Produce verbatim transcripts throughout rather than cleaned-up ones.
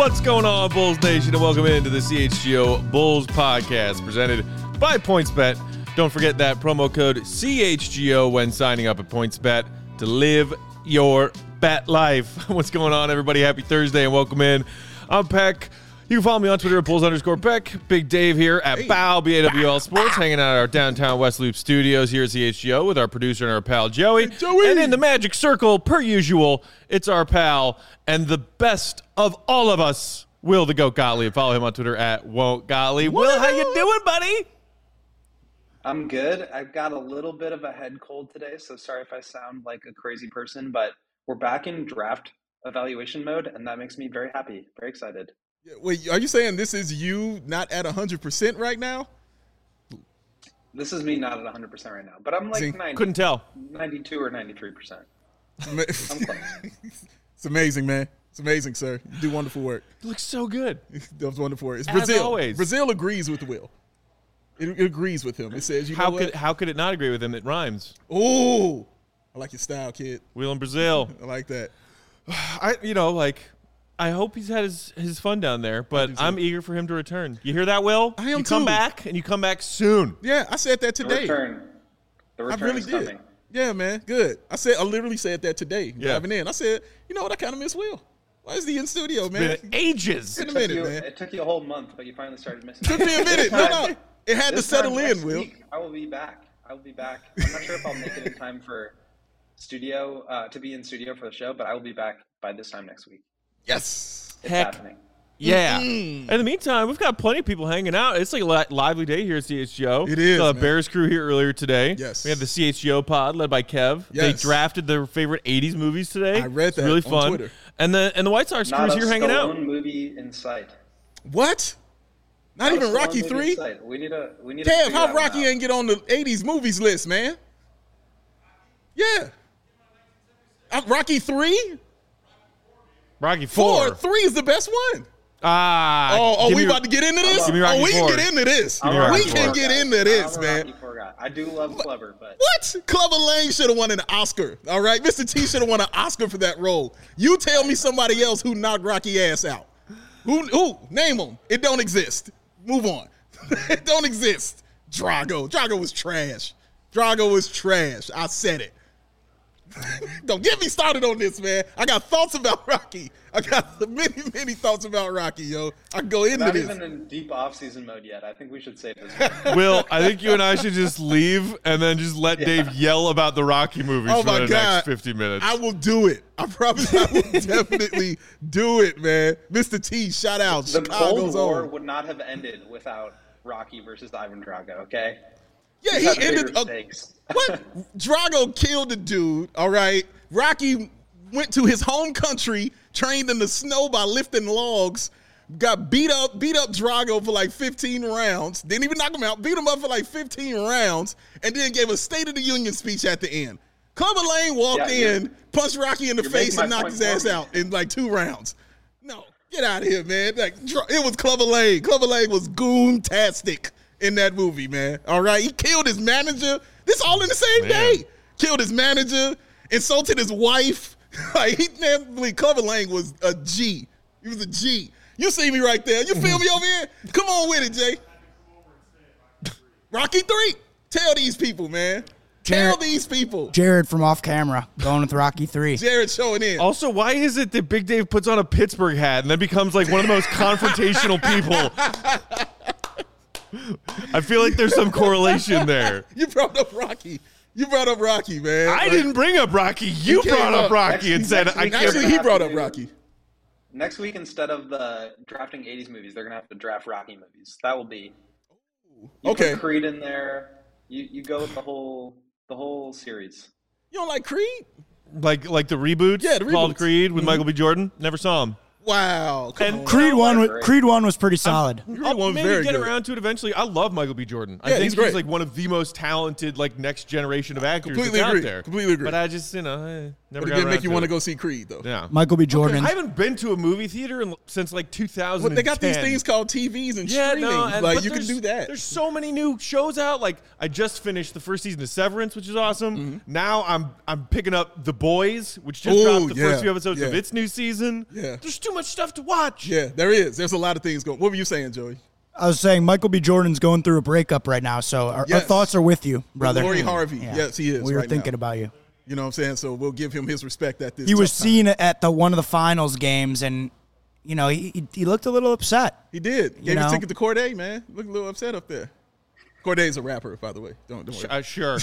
What's going on, Bulls Nation, and welcome into the C H G O Bulls Podcast, presented by PointsBet. Don't forget that promo code C H G O when signing up at PointsBet to live your bet life. What's going on, everybody? Happy Thursday, and welcome in. I'm Peck. You can follow me on Twitter at Bulls underscore Peck. Big Dave here at hey. B A W, B A W L Sports, hanging out at our downtown West Loop studios here at C H G O with our producer and our pal Joey. Hey, Joey. And in the magic circle, per usual, it's our pal and the best of all of us, Will the Goat Gottlieb. Follow him on Twitter at Won't Gottlieb. Will, how you doing, buddy? I'm good. I've got a little bit of a head cold today, so sorry if I sound like a crazy person, but we're back in draft evaluation mode, and that makes me very happy, very excited. Wait, are you saying this is you not at one hundred percent right now? This is me not at one hundred percent right now, but I'm like See, ninety, couldn't tell. ninety-two or ninety-three percent. I'm close. It's amazing, man. It's amazing, sir. You do wonderful work. You look so good. That was wonderful work. It's As Brazil. always. Brazil agrees with Will. It, it agrees with him. It says, you how know could what? How could it not agree with him? It rhymes. Oh, I like your style, kid. Will in Brazil. I like that. I, you know, like, I hope he's had his, his fun down there, but I'm eager for him to return. You hear that, Will? I am You come too. back, and you come back soon. Yeah, I said that today. The return. The return I really is did. coming. Yeah, man. Good. I said. I literally said that today. Yeah. Driving in. I said, you know what? I kind of miss Will. Why is he in studio, man? It's been ages. Been a It took minute, you- man. It took you a whole month, but you finally started missing Took me a minute. No, no. It had to This settle time in, next Will. week, I will be back. I will be back. I'm not sure if I'll make it in time for studio uh, to be in studio for the show, but I will be back by this time next week. Yes. It's Heck. happening. Yeah. Mm-mm. In the meantime, we've got plenty of people hanging out. It's like a li- lively day here at C H G O. It is, The man. Bears crew here earlier today. Yes. We have the C H G O pod led by Kev. Yes. They drafted their favorite eighties movies today. I read It's that really on fun. Twitter. And the and the White Sox Not crew's a here hanging out. Stallone movie in sight. What? Not, Not a even Stallone Rocky movie in three? sight. We need a. We need. to Kev, figure how that one Rocky out. ain't get on the eighties movies list, man? Yeah. Uh, Rocky three? Rocky Four. Four. Three is the best one. Ah. Oh, oh give we me- about to get into this? Give me Rocky oh, we Four. can get into this. Give me I'm a Rocky We Four. can Four get guy. into this, I'm a man. Rocky Four guy. I do love Clever, but What? Clubber Lang should have won an Oscar, all right? Mister T should have won an Oscar for that role. You tell me somebody else who knocked Rocky ass out. Who? Who? Name them. It don't exist. Move on. It don't exist. Drago. Drago was trash. Drago was trash. I said it. Don't get me started on this, man. I got thoughts about Rocky. I got many, many thoughts about Rocky, yo. I can go into not this. even in deep off-season mode yet. I think we should save this. one. Will, I think you and I should just leave and then just let Yeah. Dave yell about the Rocky movies Oh for my the God. next fifty minutes. I will do it. I promise I will definitely do it, man. Mister T, shout out. The Cold Chicago's War own. would not have ended without Rocky versus Ivan Drago. Okay. Yeah, He's he had ended bigger up. stakes. What? Drago killed the dude, all right? Rocky went to his home country, trained in the snow by lifting logs, got beat up, beat up Drago for like fifteen rounds, didn't even knock him out, beat him up for like fifteen rounds, and then gave a State of the Union speech at the end. Clubber Lang walked Yeah, in, punched Rocky in the you're face, making and my knocked point his ass for me. out in like two rounds. No, get out of here, man. Like, Dra- it was Clubber Lang. Clubber Lang was goon-tastic in that movie, man. All right? He killed his manager. This all in the same Man. day. Killed his manager, insulted his wife. Like, he definitely, Clubber Lang was a G. He was a G. You see me right there. You feel me over here? Come on with it, Jay. Rocky three. Tell these people, man. Tell Jared- these people. Jared from off camera going with Rocky three. Jared showing in. Also, why is it that Big Dave puts on a Pittsburgh hat and then becomes like one of the most confrontational people? I feel like there's some correlation there. You brought up Rocky. You brought up Rocky, man. I Like, didn't bring up Rocky. You came brought up up. Rocky and Next- said, next I week- can't. Actually, he brought up Rocky. Next week, instead of the drafting eighties movies, they're gonna have to draft Rocky movies. That will be. You Okay. Put Creed in there. You you go with the whole the whole series. You don't like Creed? Like like the reboots, Yeah, the called reboots. Creed with Mhm. Michael B. Jordan. Never saw him. Wow. Come And on. Creed one, was, Great. Creed one was pretty solid. Creed I'll one was maybe very get good. around to it eventually. I love Michael B. Jordan. I Yeah, think he's he's, great. like one of the most talented, like next generation of actors Completely that's agree. out there. Completely agree. But I just, you know, eh, Never But it got did around make you to want to it. go see Creed, though. Yeah. Michael B. Jordan. I haven't been to a movie theater in, since like two thousand ten. Well, they got these things called T Vs and Yeah, streaming. no, and, like, but you can there's- do that. There's so many new shows out. Like I just finished the first season of Severance, which is awesome. Mm-hmm. Now I'm I'm picking up The Boys, which just Ooh, dropped the yeah, first few episodes of yeah. its new season. Yeah. There's too much stuff to watch. Yeah, there is. There's a lot of things going. What were you saying, Joey? I was saying Michael B. Jordan's going through a breakup right now, so our, our Yes. thoughts are with you, brother. Lori Harvey. Yeah. Yes, he is. We were right thinking now. about you. You know what I'm saying? So we'll give him his respect at this. He was tough time. seen at the one of the finals games, and you know he he, he looked a little upset. He did. Gave know? his ticket to Corday, man. Look a little upset up there. Corday's a rapper, by the way. Don't don't worry. Uh, sure,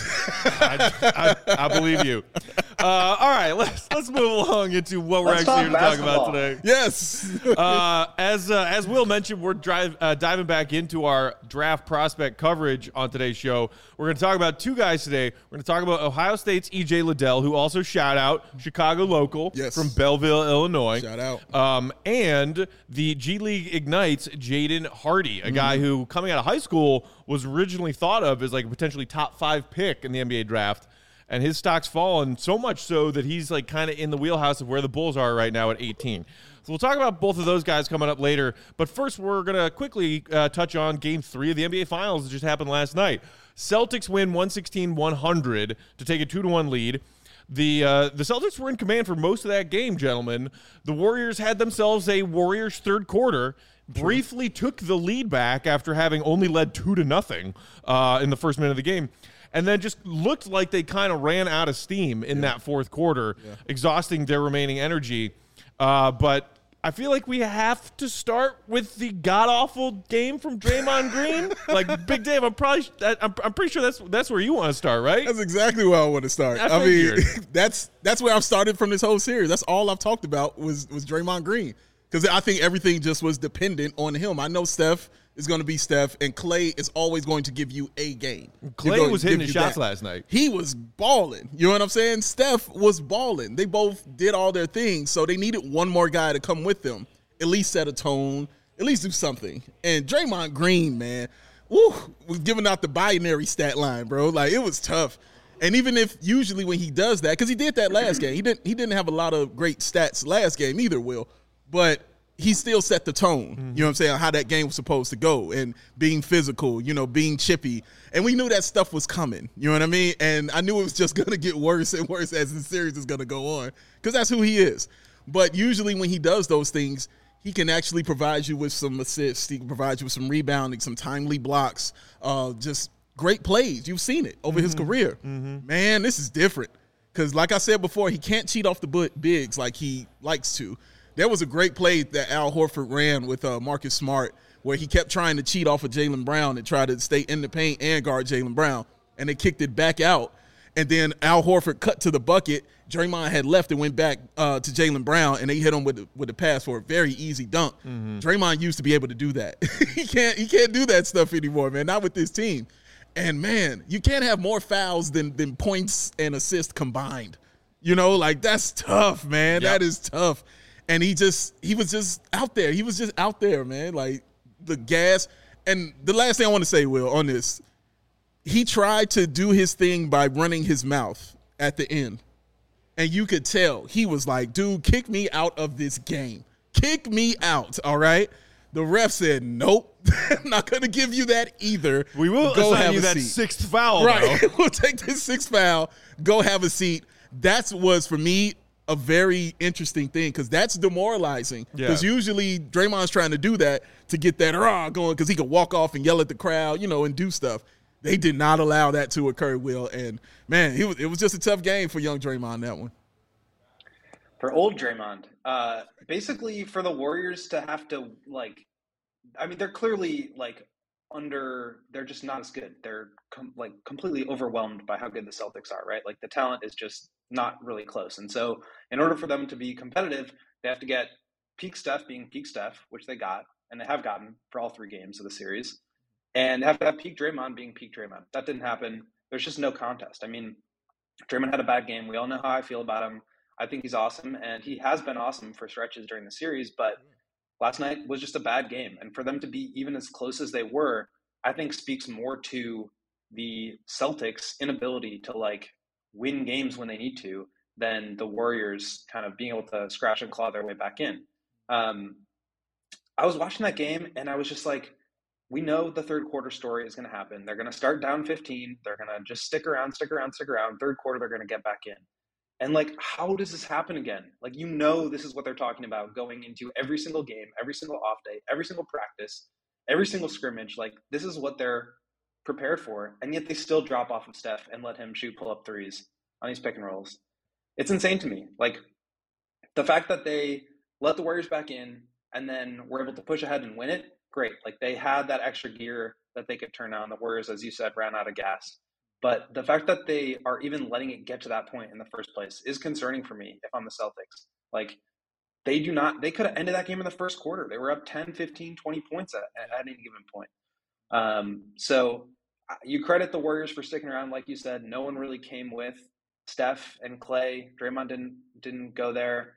I, I, I believe you. Uh, all right, let's let's move along into what we're Let's actually here to talk talk about basketball. today. Yes. Uh, as uh, as Will mentioned, we're drive, uh, diving back into our draft prospect coverage on today's show. We're going to talk about two guys today. We're going to talk about Ohio State's E J Liddell, who also shout out Chicago local Yes. from Belleville, Illinois. Shout out. Um, and the G League Ignites Jaden Hardy, a guy who coming out of high school was originally thought of as like a potentially top five pick in the N B A draft. And his stock's fallen so much so that he's like kind of in the wheelhouse of where the Bulls are right now at eighteen. So we'll talk about both of those guys coming up later. But first, we're going to quickly uh, touch on Game three of the N B A Finals that just happened last night. Celtics win one sixteen one hundred to take a two to one lead. The uh, the Celtics were in command for most of that game, gentlemen. The Warriors had themselves a Warriors third quarter, briefly took the lead back after having only led two to nothing uh, in the first minute of the game. And then just looked like they kind of ran out of steam in that fourth quarter, exhausting their remaining energy. Uh, but I feel like we have to start with the god-awful game from Draymond Green. Like, Big Dave, I'm probably I'm, I'm pretty sure that's that's where you want to start, right? That's exactly where I want to start. I I, mean, figured. that's that's where I've started from this whole series. That's all I've talked about was was Draymond Green, because I think everything just was dependent on him. I know Steph is going to be Steph, and Klay is always going to give you a game. Klay They're going was to hitting give his you shots that. last night. He was balling. You know what I'm saying? Steph was balling. They both did all their things, so they needed one more guy to come with them, at least set a tone, at least do something. And Draymond Green, man, woo, was giving out the binary stat line, bro. Like, it was tough. And even if usually when he does that, because he did that last game, he didn't he didn't have a lot of great stats last game either, Will, but he still set the tone, mm-hmm. you know what I'm saying, how that game was supposed to go, and being physical, you know, being chippy. And we knew that stuff was coming, you know what I mean? And I knew it was just going to get worse and worse as the series is going to go on, because that's who he is. But usually when he does those things, he can actually provide you with some assists. He can provide you with some rebounding, some timely blocks, uh, just great plays. You've seen it over mm-hmm. his career. Mm-hmm. Man, this is different. Because like I said before, he can't cheat off the bigs like he likes to. There was a great play that Al Horford ran with uh, Marcus Smart where he kept trying to cheat off of Jaylen Brown and try to stay in the paint and guard Jaylen Brown, and they kicked it back out. And then Al Horford cut to the bucket. Draymond had left and went back uh, to Jaylen Brown, and they hit him with the, with the pass for a very easy dunk. Mm-hmm. Draymond used to be able to do that. he can't he can't do that stuff anymore, man, not with this team. And, man, you can't have more fouls than, than points and assists combined. You know, like, that's tough, man. Yep. That is tough. And he just, he was just out there. He was just out there, man. Like, the gas. And the last thing I want to say, Will, on this, he tried to do his thing by running his mouth at the end. And you could tell he was like, dude, kick me out of this game. Kick me out, all right? The ref said, nope, I'm not going to give you that either. We will go assign have you a that seat. sixth foul, Right. though. We'll take this sixth foul, go have a seat. That was, for me, a very interesting thing, because that's demoralizing. Because Yeah. usually Draymond's trying to do that to get that rah going, because he could walk off and yell at the crowd, you know, and do stuff. They did not allow that to occur, Will. And, man, he was, it was just a tough game for young Draymond, that one. For old Draymond, uh, basically for the Warriors to have to, like, I mean, they're clearly, like, under, they're just not as good. They're, com- like, completely overwhelmed by how good the Celtics are, right? Like, the talent is just not really close. And so in order for them to be competitive, they have to get peak Steph being peak Steph, which they got, and they have gotten for all three games of the series. And have to have peak Draymond being peak Draymond. That didn't happen. There's just no contest. I mean, Draymond had a bad game. We all know how I feel about him. I think he's awesome, and he has been awesome for stretches during the series, but last night was just a bad game. And for them to be even as close as they were, I think speaks more to the Celtics' inability to, like, win games when they need to than the Warriors kind of being able to scratch and claw their way back in. Um, I was watching that game and I was just like, we know the third quarter story is going to happen. They're going to start down fifteen. They're going to just stick around, stick around, stick around. Third quarter, they're going to get back in. And like, how does this happen again? Like, you know, this is what they're talking about going into every single game, every single off day, every single practice, every single scrimmage. Like, this is what they're prepared for. And yet they still drop off of Steph and let him shoot pull-up threes on these pick and rolls. It's insane to me. Like, the fact that they let the Warriors back in and then were able to push ahead and win it, great. Like, they had that extra gear that they could turn on. The Warriors, as you said, ran out of gas. But the fact that they are even letting it get to that point in the first place is concerning for me if I'm the Celtics. Like, they do not – they could have ended that game in the first quarter. They were up ten, fifteen, twenty points at, at any given point. Um, so you credit the Warriors for sticking around. Like you said, no one really came with Steph and Clay. Draymond didn't didn't go there.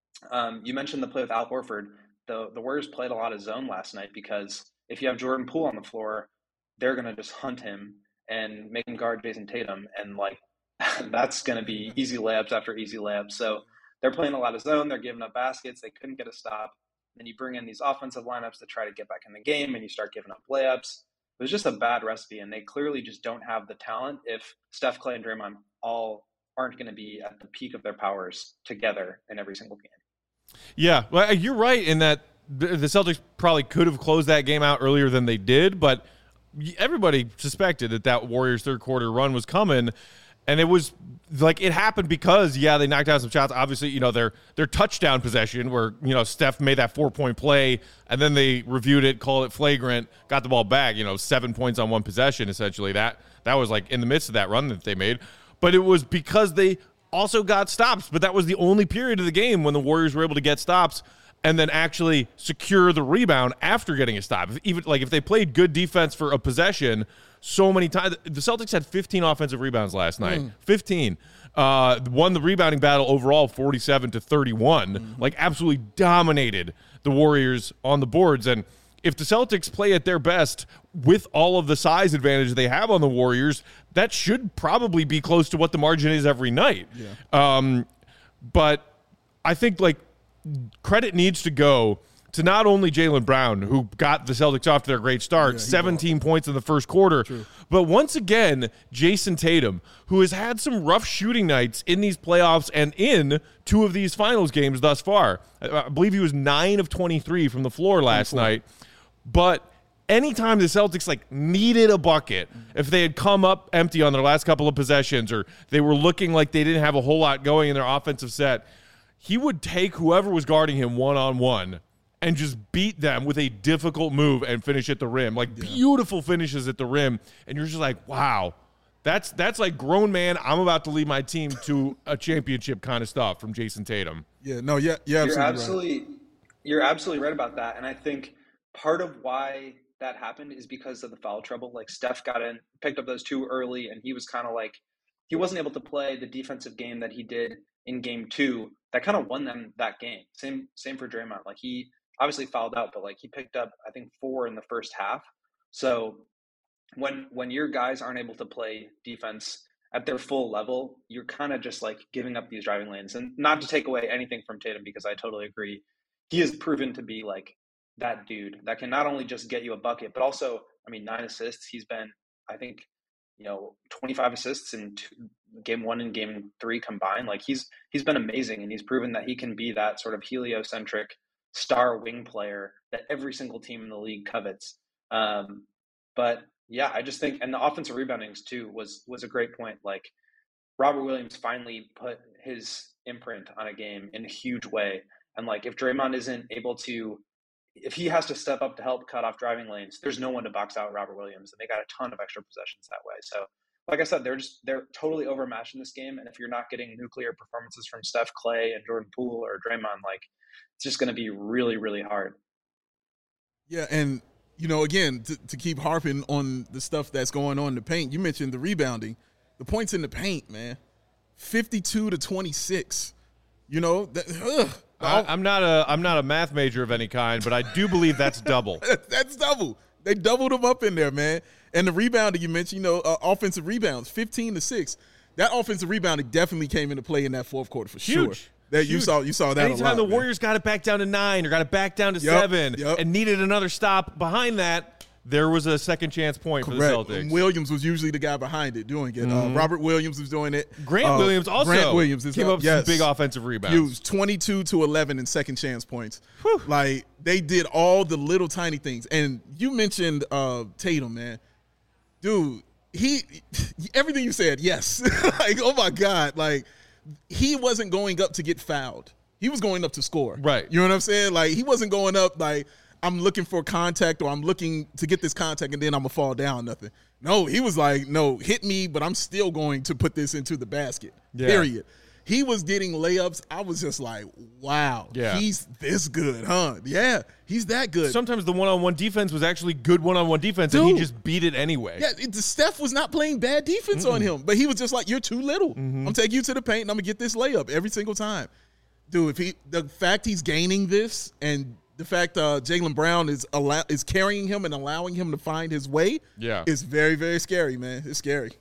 Um, you mentioned the play with Al Horford. The, the Warriors played a lot of zone last night because if you have Jordan Poole on the floor, they're going to just hunt him and make him guard Jason Tatum. And, like, that's going to be easy layups after easy layups. So they're playing a lot of zone. They're giving up baskets. They couldn't get a stop. Then you bring in these offensive lineups to try to get back in the game, and you start giving up layups. It was just a bad recipe, and they clearly just don't have the talent if Steph, Clay, and Draymond all aren't going to be at the peak of their powers together in every single game. Yeah, well, you're right in that the Celtics probably could have closed that game out earlier than they did, but everybody suspected that that Warriors third quarter run was coming, and it was like it happened because, yeah, they knocked out some shots. Obviously, you know, their their touchdown possession where, you know, Steph made that four-point play, and then they reviewed it, called it flagrant, got the ball back, you know, seven points on one possession, essentially. That that was, like, in the midst of that run that they made. But it was because they also got stops, but that was the only period of the game when the Warriors were able to get stops and then actually secure the rebound after getting a stop. Even like if they played good defense for a possession so many times, the Celtics had fifteen offensive rebounds last night. Mm. fifteen. Uh, won the rebounding battle overall forty-seven to thirty-one. Mm-hmm. Like, absolutely dominated the Warriors on the boards. And if the Celtics play at their best with all of the size advantage they have on the Warriors, that should probably be close to what the margin is every night. Yeah. Um, but I think, like, credit needs to go to not only Jaylen Brown, who got the Celtics off to their great start, yeah, seventeen bought. points in the first quarter, True. but once again, Jason Tatum, who has had some rough shooting nights in these playoffs and in two of these finals games thus far. I believe he was nine of twenty-three from the floor last night. But anytime the Celtics, like, needed a bucket, if they had come up empty on their last couple of possessions or they were looking like they didn't have a whole lot going in their offensive set, he would take whoever was guarding him one-on-one and just beat them with a difficult move and finish at the rim. Like, yeah. beautiful finishes at the rim. And you're just like, wow, that's that's like grown man, I'm about to lead my team to a championship kind of stuff from Jason Tatum. Yeah, no, yeah, yeah, you're absolutely, absolutely, right. You're absolutely right about that. And I think part of why that happened is because of the foul trouble. Like, Steph got in, picked up those two early, and he was kind of like, he wasn't able to play the defensive game that he did in game two. That kind of won them that game. Same same for Draymond. Like, he obviously fouled out, but like he picked up, I think, four in the first half. So when when your guys aren't able to play defense at their full level, you're kind of just like giving up these driving lanes. And not to take away anything from Tatum, because I totally agree. He has proven to be like that dude that can not only just get you a bucket, but also, I mean, nine assists. He's been, I think, you know, twenty-five assists in two, game one and game three combined. Like, he's he's been amazing, and he's proven that he can be that sort of heliocentric star wing player that every single team in the league covets. Um, but yeah, I just think, and the offensive reboundings too was was a great point. Like, Robert Williams finally put his imprint on a game in a huge way. And like, if Draymond isn't able to, if he has to step up to help cut off driving lanes, there's no one to box out Robert Williams. And they got a ton of extra possessions that way. So like I said, they're just, they're totally overmatched in this game. And if you're not getting nuclear performances from Steph, Clay, and Jordan Poole or Draymond, like, it's just going to be really, really hard. Yeah. And, you know, again, to, to keep harping on the stuff that's going on in the paint, you mentioned the rebounding, the points in the paint, man, fifty-two to twenty-six, you know, that, ugh. I, I'm not a I'm not a math major of any kind, but I do believe that's double. That's double. They doubled them up in there, man. And the rebounding you mentioned, you know, uh, offensive rebounds, fifteen to six. that offensive rebounding definitely came into play in that fourth quarter for Huge. sure. That Huge. you saw, you saw that. Anytime a lot, the man. Warriors got it back down to nine or got it back down to Yep, seven yep. and needed another stop behind that, there was a second chance point Correct. for the Celtics. And Williams was usually the guy behind it doing it. Mm-hmm. Uh, Robert Williams was doing it. Grant Uh, Williams also Grant Williams is came uh, up with yes. some big offensive rebounds. Huge, twenty-two to eleven in second chance points. Whew. Like they did all the little tiny things. And you mentioned uh, Tatum, man, dude. He everything you said, yes. Like, oh my God, like he wasn't going up to get fouled. He was going up to score. Right. You know what I'm saying? Like he wasn't going up like I'm looking for contact or I'm looking to get this contact and then I'm gonna fall down. Nothing. No, he was like, no, hit me, but I'm still going to put this into the basket. Yeah. Period. He was getting layups. I was just like, wow, Yeah. he's this good, huh? Yeah, he's that good. Sometimes the one-on-one defense was actually good one-on-one defense, and he Dude. just beat it anyway. Yeah, it, Steph was not playing bad defense on him, but he was just like, you're too little. Mm-hmm. I'm gonna take you to the paint and I'm gonna get this layup every single time. Dude, if he the fact he's gaining this and the fact uh, Jaylen Brown is allow, is carrying him and allowing him to find his way, Yeah. is very, very scary, man. It's scary.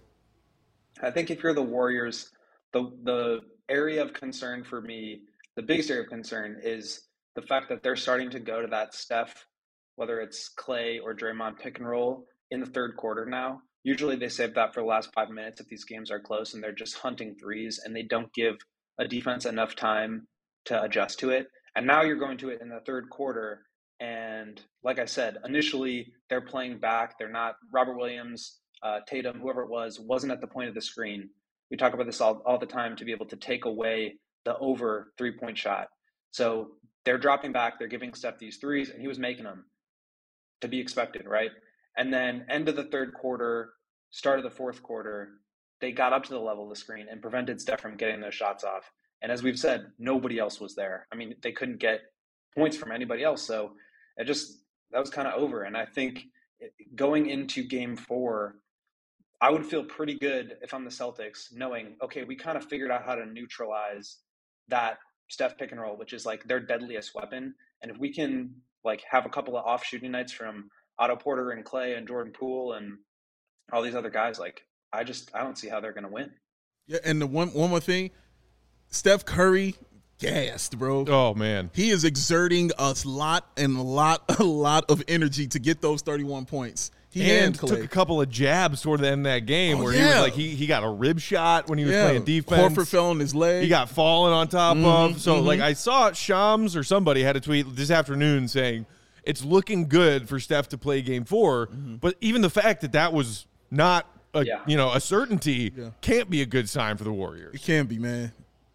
I think if you're the Warriors, the the area of concern for me, the biggest area of concern is the fact that they're starting to go to that Steph, whether it's Clay or Draymond pick and roll in the third quarter now. Usually they save that for the last five minutes if these games are close and they're just hunting threes and they don't give a defense enough time to adjust to it. And now you're going to it in the third quarter. And like I said, initially they're playing back. They're not Robert Williams, uh, Tatum, whoever it was, wasn't at the point of the screen. We talk about this all, all the time to be able to take away the over three-point shot. So they're dropping back. They're giving Steph these threes, and he was making them to be expected, right? And then end of the third quarter, start of the fourth quarter, they got up to the level of the screen and prevented Steph from getting those shots off. And as we've said, nobody else was there. I mean, they couldn't get points from anybody else. So it just, that was kind of over. And I think going into game four, I would feel pretty good if I'm the Celtics knowing, okay, we kind of figured out how to neutralize that Steph pick and roll, which is like their deadliest weapon. And if we can like have a couple of off shooting nights from Otto Porter and Clay and Jordan Poole and all these other guys, like I just, I don't see how they're going to win. Yeah, and the one one more thing, Steph Curry, gassed, bro. Oh, man. He is exerting a lot and a lot, a lot of energy to get those thirty-one points. He And and Clay. took a couple of jabs toward the end of that game Oh, where he yeah. was like, he, he got a rib shot when he was yeah. playing defense. Horford fell on his leg. He got fallen on top Mhm, of. So, mhm. like, I saw Shams or somebody had a tweet this afternoon saying it's looking good for Steph to play game four. Mm-hmm. But even the fact that that was not a, Yeah. you know, a certainty Yeah. can't be a good sign for the Warriors. It can be, man.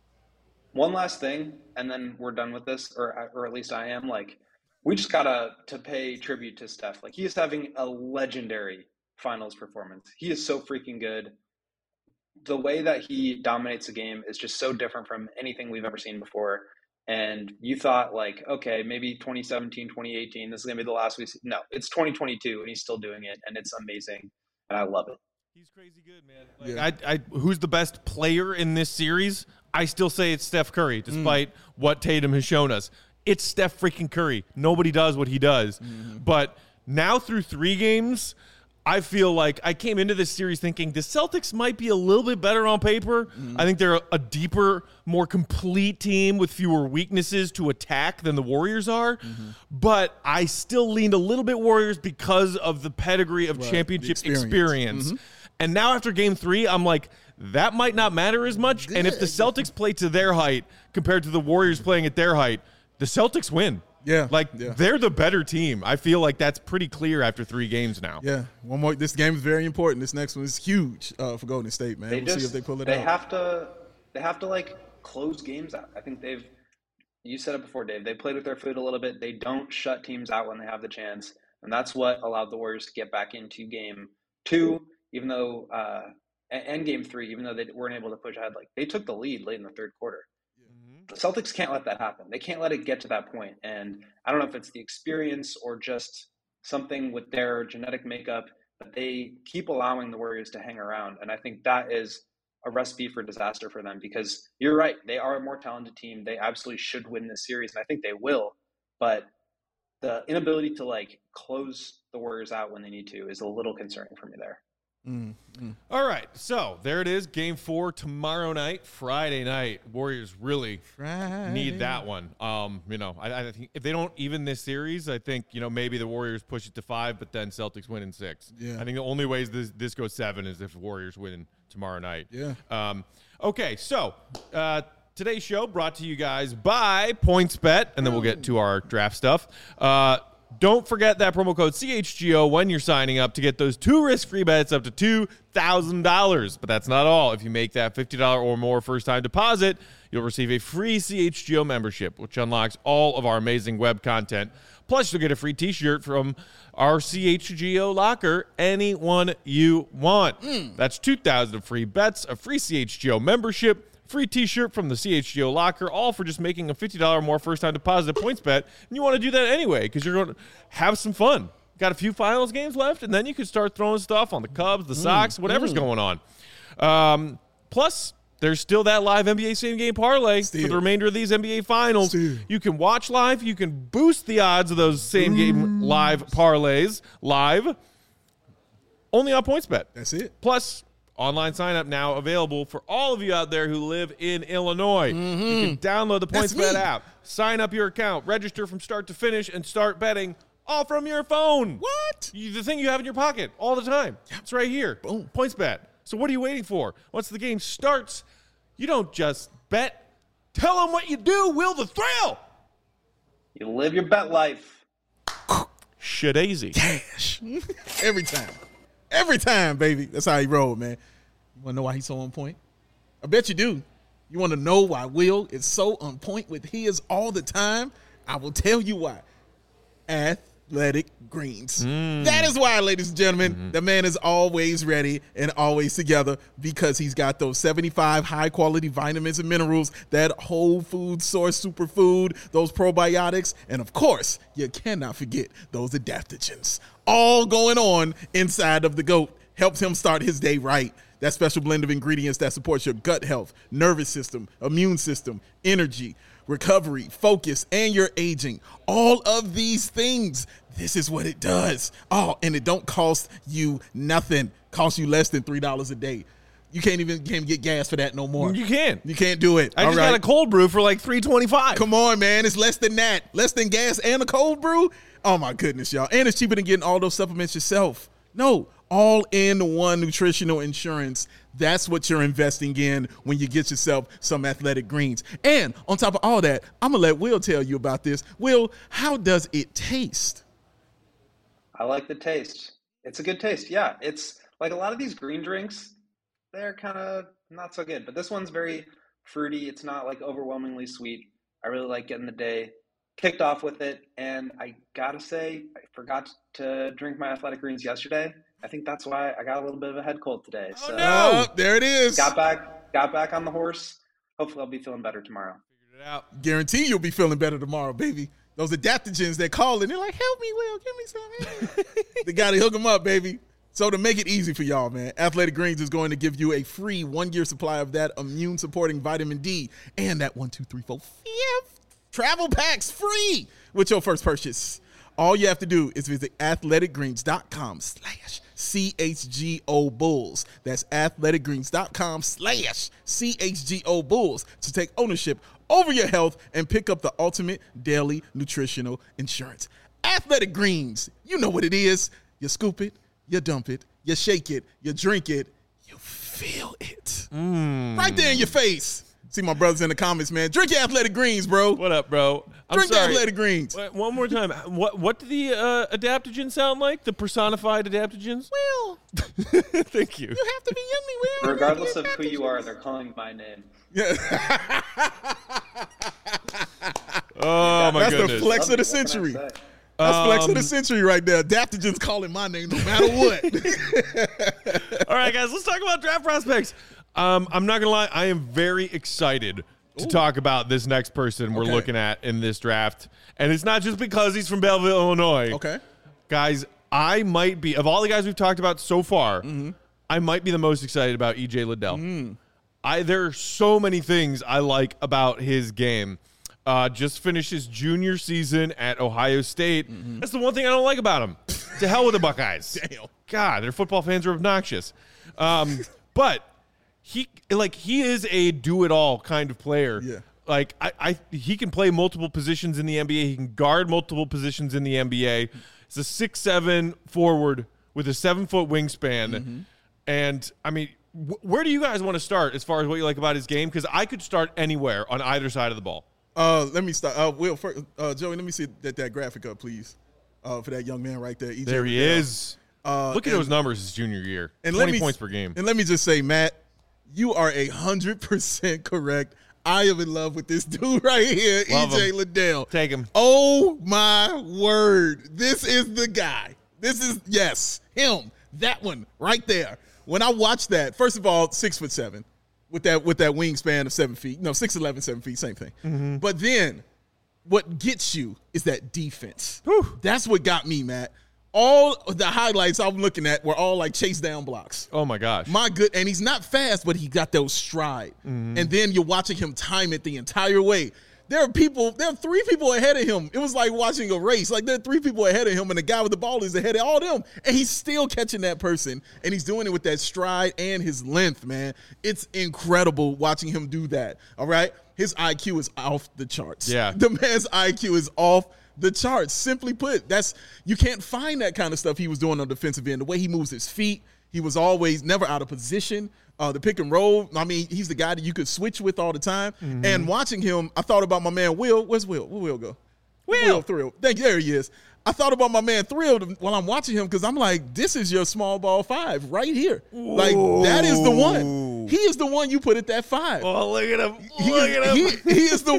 One last thing, and then we're done with this, or or at least I am. Like, we just gotta to pay tribute to Steph. Like, he is having a legendary finals performance. He is so freaking good. The way that he dominates the game is just so different from anything we've ever seen before. And you thought like, okay, maybe twenty seventeen, twenty eighteen, this is gonna be the last we see. No, it's twenty twenty-two, and he's still doing it, and it's amazing, and I love it. He's crazy good, man. Like, I, I, who's the best player in this series? I still say it's Steph Curry, despite mm. what Tatum has shown us. It's Steph freaking Curry. Nobody does what he does. Mm-hmm. But now through three games, I feel like I came into this series thinking the Celtics might be a little bit better on paper. Mm-hmm. I think they're a deeper, more complete team with fewer weaknesses to attack than the Warriors are. Mm-hmm. But I still leaned a little bit Warriors because of the pedigree of right. championship experience. experience. Mm-hmm. And now after game three, I'm like, that might not matter as much. And if the Celtics play to their height compared to the Warriors playing at their height, the Celtics win. Yeah. Like, yeah. they're the better team. I feel like that's pretty clear after three games now. Yeah. One more. This game is very important. This next one is huge uh, for Golden State, man. They we'll just, see if they pull it they out. They have to, they have to, like, close games out. I think they've, you said it before, Dave, they played with their foot a little bit. They don't shut teams out when they have the chance. And that's what allowed the Warriors to get back into game two, even though uh, – and game three, even though they weren't able to push ahead. Like, they took the lead late in the third quarter. Mm-hmm. The Celtics can't let that happen. They can't let it get to that point. And I don't know if it's the experience or just something with their genetic makeup, but they keep allowing the Warriors to hang around. And I think that is a recipe for disaster for them, because you're right. They are a more talented team. They absolutely should win this series, and I think they will. But the inability to, like, close the Warriors out when they need to is a little concerning for me there. Mm, mm. All right, so there it is. Game four tomorrow night, Friday night. Warriors really Friday. need that one. Um, you know, I, I think if they don't even this series, I think you know maybe the Warriors push it to five, but then Celtics win in six. Yeah. I think the only ways this this goes seven is if the Warriors win tomorrow night. Yeah. Um, okay, so uh, today's show brought to you guys by PointsBet, and then we'll get to our draft stuff. Uh, Don't forget that promo code C H G O when you're signing up to get those two risk-free bets up to two thousand dollars. But that's not all. If you make that fifty dollars or more first-time deposit, you'll receive a free C H G O membership, which unlocks all of our amazing web content. Plus, you'll get a free t-shirt from our C H G O locker, any one you want. Mm. That's two thousand dollars free bets, a free C H G O membership, free t-shirt from the C H G O locker, all for just making a fifty dollars or more first-time deposit at PointsBet. And you want to do that anyway because you're going to have some fun. Got a few finals games left, and then you can start throwing stuff on the Cubs, the Sox, whatever's mm. going on. Um, plus, there's still that live N B A same-game parlay Still. for the remainder of these N B A finals. Still. You can watch live. You can boost the odds of those same-game mm. live parlays live only on PointsBet. That's it. Plus, online sign-up now available for all of you out there who live in Illinois. Mm-hmm. You can download the That's PointsBet me. app, sign up your account, register from start to finish, and start betting all from your phone. What? You, the thing you have in your pocket all the time. It's right here. Boom. PointsBet. So what are you waiting for? Once the game starts, you don't just bet. Tell them what you do. Will the thrill. You live your bet life. Shadazy. Cash. Every time. Every time, baby. That's how he rolled, man. You want to know why he's so on point? I bet you do. You want to know why Will is so on point with his all the time? I will tell you why. Athletic Greens. Mm. That is why, ladies and gentlemen, mm-hmm. the man is always ready and always together because he's got those seventy-five high-quality vitamins and minerals, that whole food source superfood, those probiotics, and, of course, you cannot forget those adaptogens. All going on inside of the GOAT. Helps him start his day right. That special blend of ingredients that supports your gut health, nervous system, immune system, energy, recovery, focus, and your aging. All of these things, this is what it does. Oh, and it don't cost you nothing. Costs you less than three dollars a day. You can't even, can't get gas for that no more. You can't. You can't do it. I All just right. got a cold brew for like three twenty-five. Come on, man. It's less than that. Less than gas and a cold brew. Oh, my goodness, y'all. And it's cheaper than getting all those supplements yourself. No, all-in-one nutritional insurance. That's what you're investing in when you get yourself some Athletic Greens. And on top of all that, I'm going to let Will tell you about this. Will, how does it taste? I like the taste. It's a good taste. Yeah, it's like a lot of these green drinks, they're kind of not so good. But this one's very fruity. It's not like overwhelmingly sweet. I really like getting the day kicked off with it. And I got to say, I forgot to drink my Athletic Greens yesterday. I think that's why I got a little bit of a head cold today. Oh, so no. Oh, there it is. got back, got back on the horse. Hopefully I'll be feeling better tomorrow. Figured it out. Guarantee you'll be feeling better tomorrow, baby. Those adaptogens, they're calling. They're like, help me, Will. Give me some. They got to hook them up, baby. So to make it easy for y'all, man, Athletic Greens is going to give you a free one-year supply of that immune-supporting vitamin D and that one, two, three, four, fifth travel packs free with your first purchase. All you have to do is visit athleticgreens.com slash CHGO Bulls. That's athleticgreens.com slash CHGO Bulls to take ownership over your health and pick up the ultimate daily nutritional insurance. Athletic Greens, you know what it is. You scoop it, you dump it, you shake it, you drink it, you feel it. Mm. Right there in your face. See my brothers in the comments, man. Drink your Athletic Greens, bro. What up, bro? I'm Drink sorry. the Athletic Greens. Wait, one more time. What what do the uh, adaptogens sound like? The personified adaptogens? Will, Thank you. you have to be yummy, Will. Regardless of who you are, they're calling my name. Yeah. Oh, my That's goodness. the flex of the What can I century. say? That's flex of Um, the century right there. Adaptogens calling my name no matter what. All right, guys, let's talk about draft prospects. Um, I'm not going to lie. I am very excited to Ooh. talk about this next person we're Okay. looking at in this draft. And it's not just because he's from Belleville, Illinois. Okay. Guys, I might be, of all the guys we've talked about so far, mm-hmm. I might be the most excited about E J Liddell. Mm. I There are so many things I like about his game. Uh, just finished his junior season at Ohio State. Mm-hmm. That's the one thing I don't like about him. To hell with the Buckeyes. Damn. God, their football fans are obnoxious. Um, but he like he is a do-it-all kind of player. Yeah. Like I, I, he can play multiple positions in the N B A. He can guard multiple positions in the N B A. He's a six seven forward with a seven foot wingspan. Mm-hmm. And I mean, wh- where do you guys want to start as far as what you like about his game? Because I could start anywhere on either side of the ball. Uh, let me start. Uh, Will, first, uh, Joey, let me see that, that graphic up, please, uh, for that young man right there. E J There he Liddell. is. Uh, Look at and, those numbers his junior year. And twenty let me, points per game. And let me just say, Matt, you are a hundred percent correct. I am in love with this dude right here, Love E J him. Liddell. Take him. Oh my word! This is the guy. This is yes, him. That one right there. When I watched that, first of all, six foot seven, with that with that wingspan of seven feet. No, six eleven, seven feet, same thing. Mm-hmm. But then, what gets you is that defense. Whew. That's what got me, Matt. All of the highlights I'm looking at were all like chase down blocks. Oh my gosh. My good, and he's not fast, but he got those stride. Mm-hmm. And then you're watching him time it the entire way. There are people, there are three people ahead of him. It was like watching a race. Like there are three people ahead of him, and the guy with the ball is ahead of all them. And he's still catching that person, and he's doing it with that stride and his length, man. It's incredible watching him do that. All right? His I Q is off the charts. Yeah. The man's I Q is off the charts. Simply put, that's you can't find that kind of stuff he was doing on the defensive end. The way he moves his feet, he was always never out of position. Uh, the pick and roll, I mean, he's the guy that you could switch with all the time. Mm-hmm. And watching him, I thought about my man Will. Where's Will? Where Will go? Will. Will Thrill. Thank you. There he is. I thought about my man Thrill while I'm watching him because I'm like, this is your small ball five right here. Ooh. Like, that is the one. He is the one you put at that five. Oh, look at him. He look is, at him. He, he is the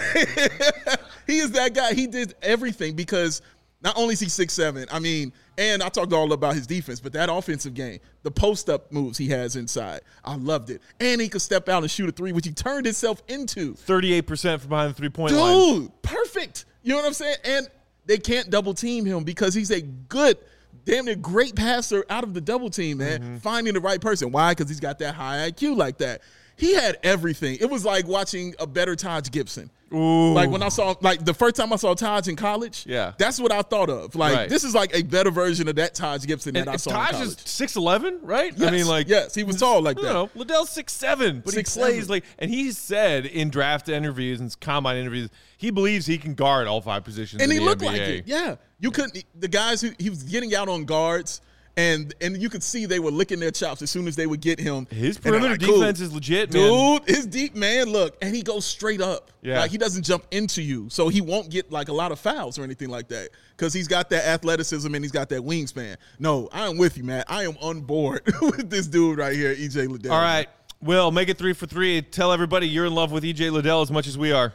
one. He is that guy. He did everything because not only is he six seven, I mean, and I talked all about his defense, but that offensive game, the post-up moves he has inside, I loved it. And he could step out and shoot a three, which he turned himself into. thirty-eight percent from behind the three-point line. Dude, perfect. You know what I'm saying? And they can't double-team him because he's a good, damn near great passer out of the double team, man. Mm-hmm. Finding the right person. Why? Because he's got that high I Q like that. He had everything. It was like watching a better Taj Gibson. Ooh. Like when I saw, like the first time I saw Taj in college, yeah, that's what I thought of. Like right. This is like a better version of that Taj Gibson and, that I saw Taj in college. is six eleven, right? Yes. I mean, like yes, he was tall like that. No, Liddell's six seven, but six, he plays seven. like, and he said in draft interviews and combine interviews, he believes he can guard all five positions. And in he the looked N B A. like it. Yeah, you couldn't. The guys who he was getting out on guards. And and you could see they were licking their chops as soon as they would get him. His perimeter like, defense cool. is legit, man. Dude, his deep man, look, and he goes straight up. Yeah. Like he doesn't jump into you. So he won't get like a lot of fouls or anything like that. Because he's got that athleticism and he's got that wingspan. No, I am with you, man. I am on board with this dude right here, E J Liddell. All right. Will, make it three for three. Tell everybody you're in love with E J Liddell as much as we are.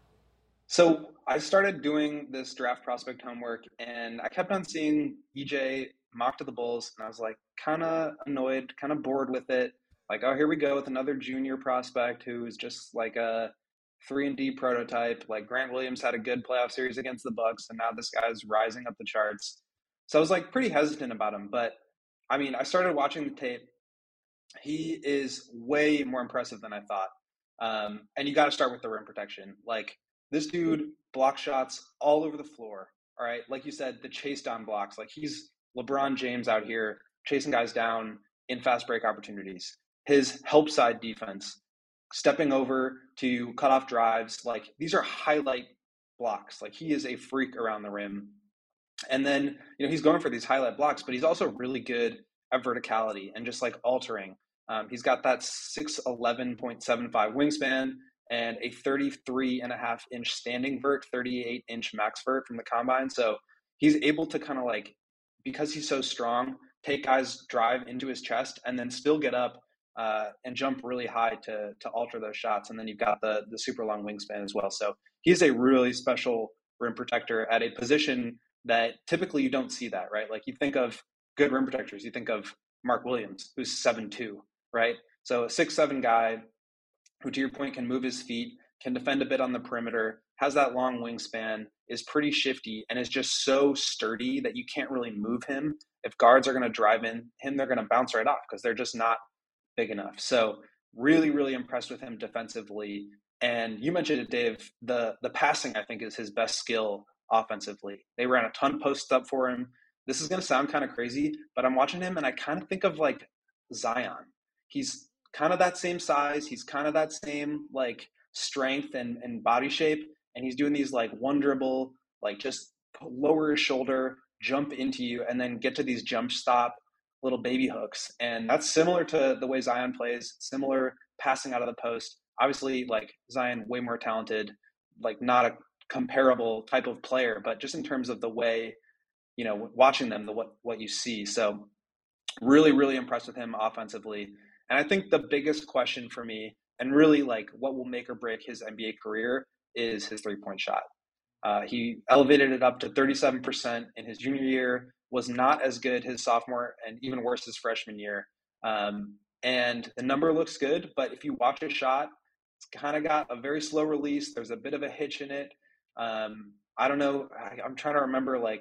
So I started doing this draft prospect homework, and I kept on seeing E J mocked to the Bulls, and I was like kind of annoyed, kind of bored with it. Like, oh, here we go with another junior prospect who's just like a three and D prototype. Like Grant Williams had a good playoff series against the Bucks, and now this guy's rising up the charts. So I was like pretty hesitant about him. But I mean, I started watching the tape. He is way more impressive than I thought. Um, and you got to start with the rim protection. Like this dude blocks shots all over the floor. All right, like you said, the chase down blocks. Like he's LeBron James out here chasing guys down in fast break opportunities. His help side defense, stepping over to cut off drives. Like these are highlight blocks. Like he is a freak around the rim. And then, you know, he's going for these highlight blocks, but he's also really good at verticality and just like altering. Um, he's got that six eleven point seven five wingspan and a thirty-three and a half inch standing vert, thirty-eight inch max vert from the combine. So he's able to kind of like, because he's so strong, take guys drive into his chest and then still get up uh, and jump really high to to alter those shots. And then you've got the the super long wingspan as well. So he's a really special rim protector at a position that typically you don't see that, right? Like you think of good rim protectors, you think of Mark Williams, who's seven two, right? So a six seven guy who, to your point, can move his feet, can defend a bit on the perimeter, has that long wingspan, is pretty shifty, and is just so sturdy that you can't really move him. If guards are going to drive in him, they're going to bounce right off because they're just not big enough. So really, really impressed with him defensively. And you mentioned it, Dave, the the passing, I think, is his best skill offensively. They ran a ton of posts up for him. this is going to sound kind of crazy, but I'm watching him and I kind of think of like Zion. He's kind of that same size. He's kind of that same like strength and, and body shape. And he's doing these like one dribble, like just lower his shoulder, jump into you, and then get to these jump stop little baby hooks. And that's similar to the way Zion plays, similar passing out of the post. Obviously, like Zion, way more talented, like not a comparable type of player, but just in terms of the way, you know, watching them, the what what you see. So really, really impressed with him offensively. And I think the biggest question for me, and really like what will make or break his N B A career, is his three-point shot. Uh, he elevated it up to thirty-seven percent in his junior year, was not as good his sophomore, and even worse his freshman year. Um, and the number looks good, but if you watch his shot, it's kind of got a very slow release. There's a bit of a hitch in it. Um, I don't know. I, I'm trying to remember like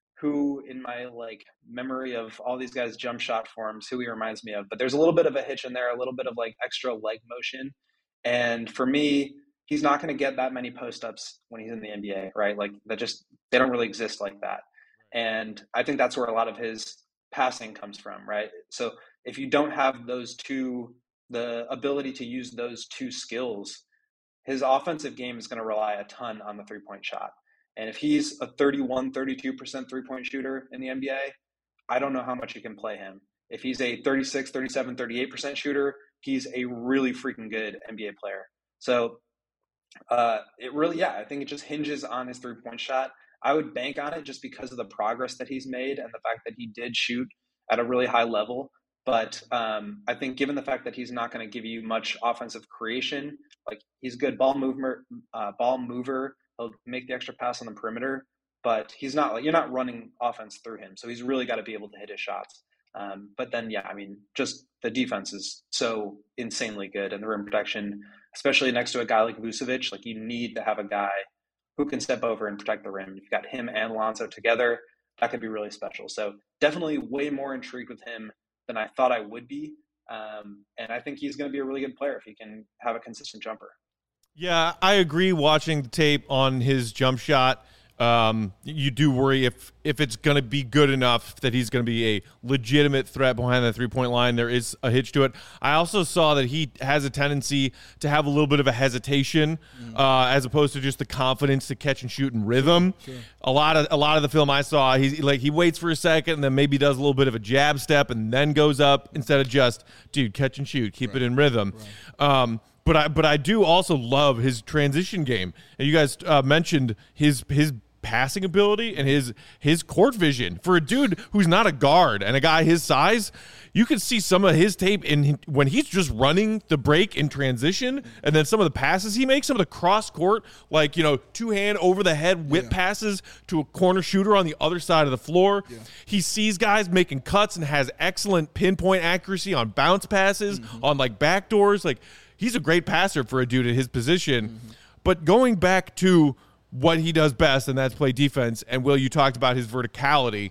who in my like memory of all these guys' jump shot forms, who he reminds me of. But there's a little bit of a hitch in there, a little bit of like extra leg motion. And for me, he's not going to get that many post-ups when he's in the N B A, right? Like that just, they don't really exist like that. And I think that's where a lot of his passing comes from, right? So if you don't have those two, the ability to use those two skills, his offensive game is going to rely a ton on the three-point shot. And if he's a thirty-one, thirty-two percent three-point shooter in the N B A, I don't know how much you can play him. If he's a thirty-six, thirty-seven, thirty-eight percent shooter, he's a really freaking good N B A player. So uh, it really, yeah, I think it just hinges on his three-point shot. I would bank on it just because of the progress that he's made and the fact that he did shoot at a really high level. But um, I think given the fact that he's not going to give you much offensive creation, like he's a good ball mover, uh, ball mover. He'll make the extra pass on the perimeter, but he's not like, you're not running offense through him. So he's really got to be able to hit his shots. Um, but then, yeah, I mean, just the defense is so insanely good, and the rim protection, especially next to a guy like Vucevic, like you need to have a guy who can step over and protect the rim. You've got him and Lonzo together. That could be really special. So definitely way more intrigued with him than I thought I would be. Um, and I think he's going to be a really good player if he can have a consistent jumper. Yeah, I agree. Watching the tape on his jump shot, um, you do worry if if it's going to be good enough that he's going to be a legitimate threat behind the three-point line. There is a hitch to it. I also saw that he has a tendency to have a little bit of a hesitation, mm. uh, as opposed to just the confidence to catch and shoot in rhythm. Sure. A lot of a lot of the film I saw, he's like he waits for a second and then maybe does a little bit of a jab step and then goes up instead of just, dude, catch and shoot, keep right. it in rhythm. Right. Um, But I but I do also love his transition game. And you guys uh, mentioned his his passing ability and his his court vision. For a dude who's not a guard and a guy his size, you can see some of his tape in when he's just running the break in transition, and then some of the passes he makes, some of the cross court, like, you know, two hand over the head whip yeah. passes to a corner shooter on the other side of the floor. Yeah. He sees guys making cuts and has excellent pinpoint accuracy on bounce passes, mm-hmm. on like backdoors. Like, he's a great passer for a dude at his position. Mm-hmm. But going back to what he does best, and that's play defense, and Will, you talked about his verticality.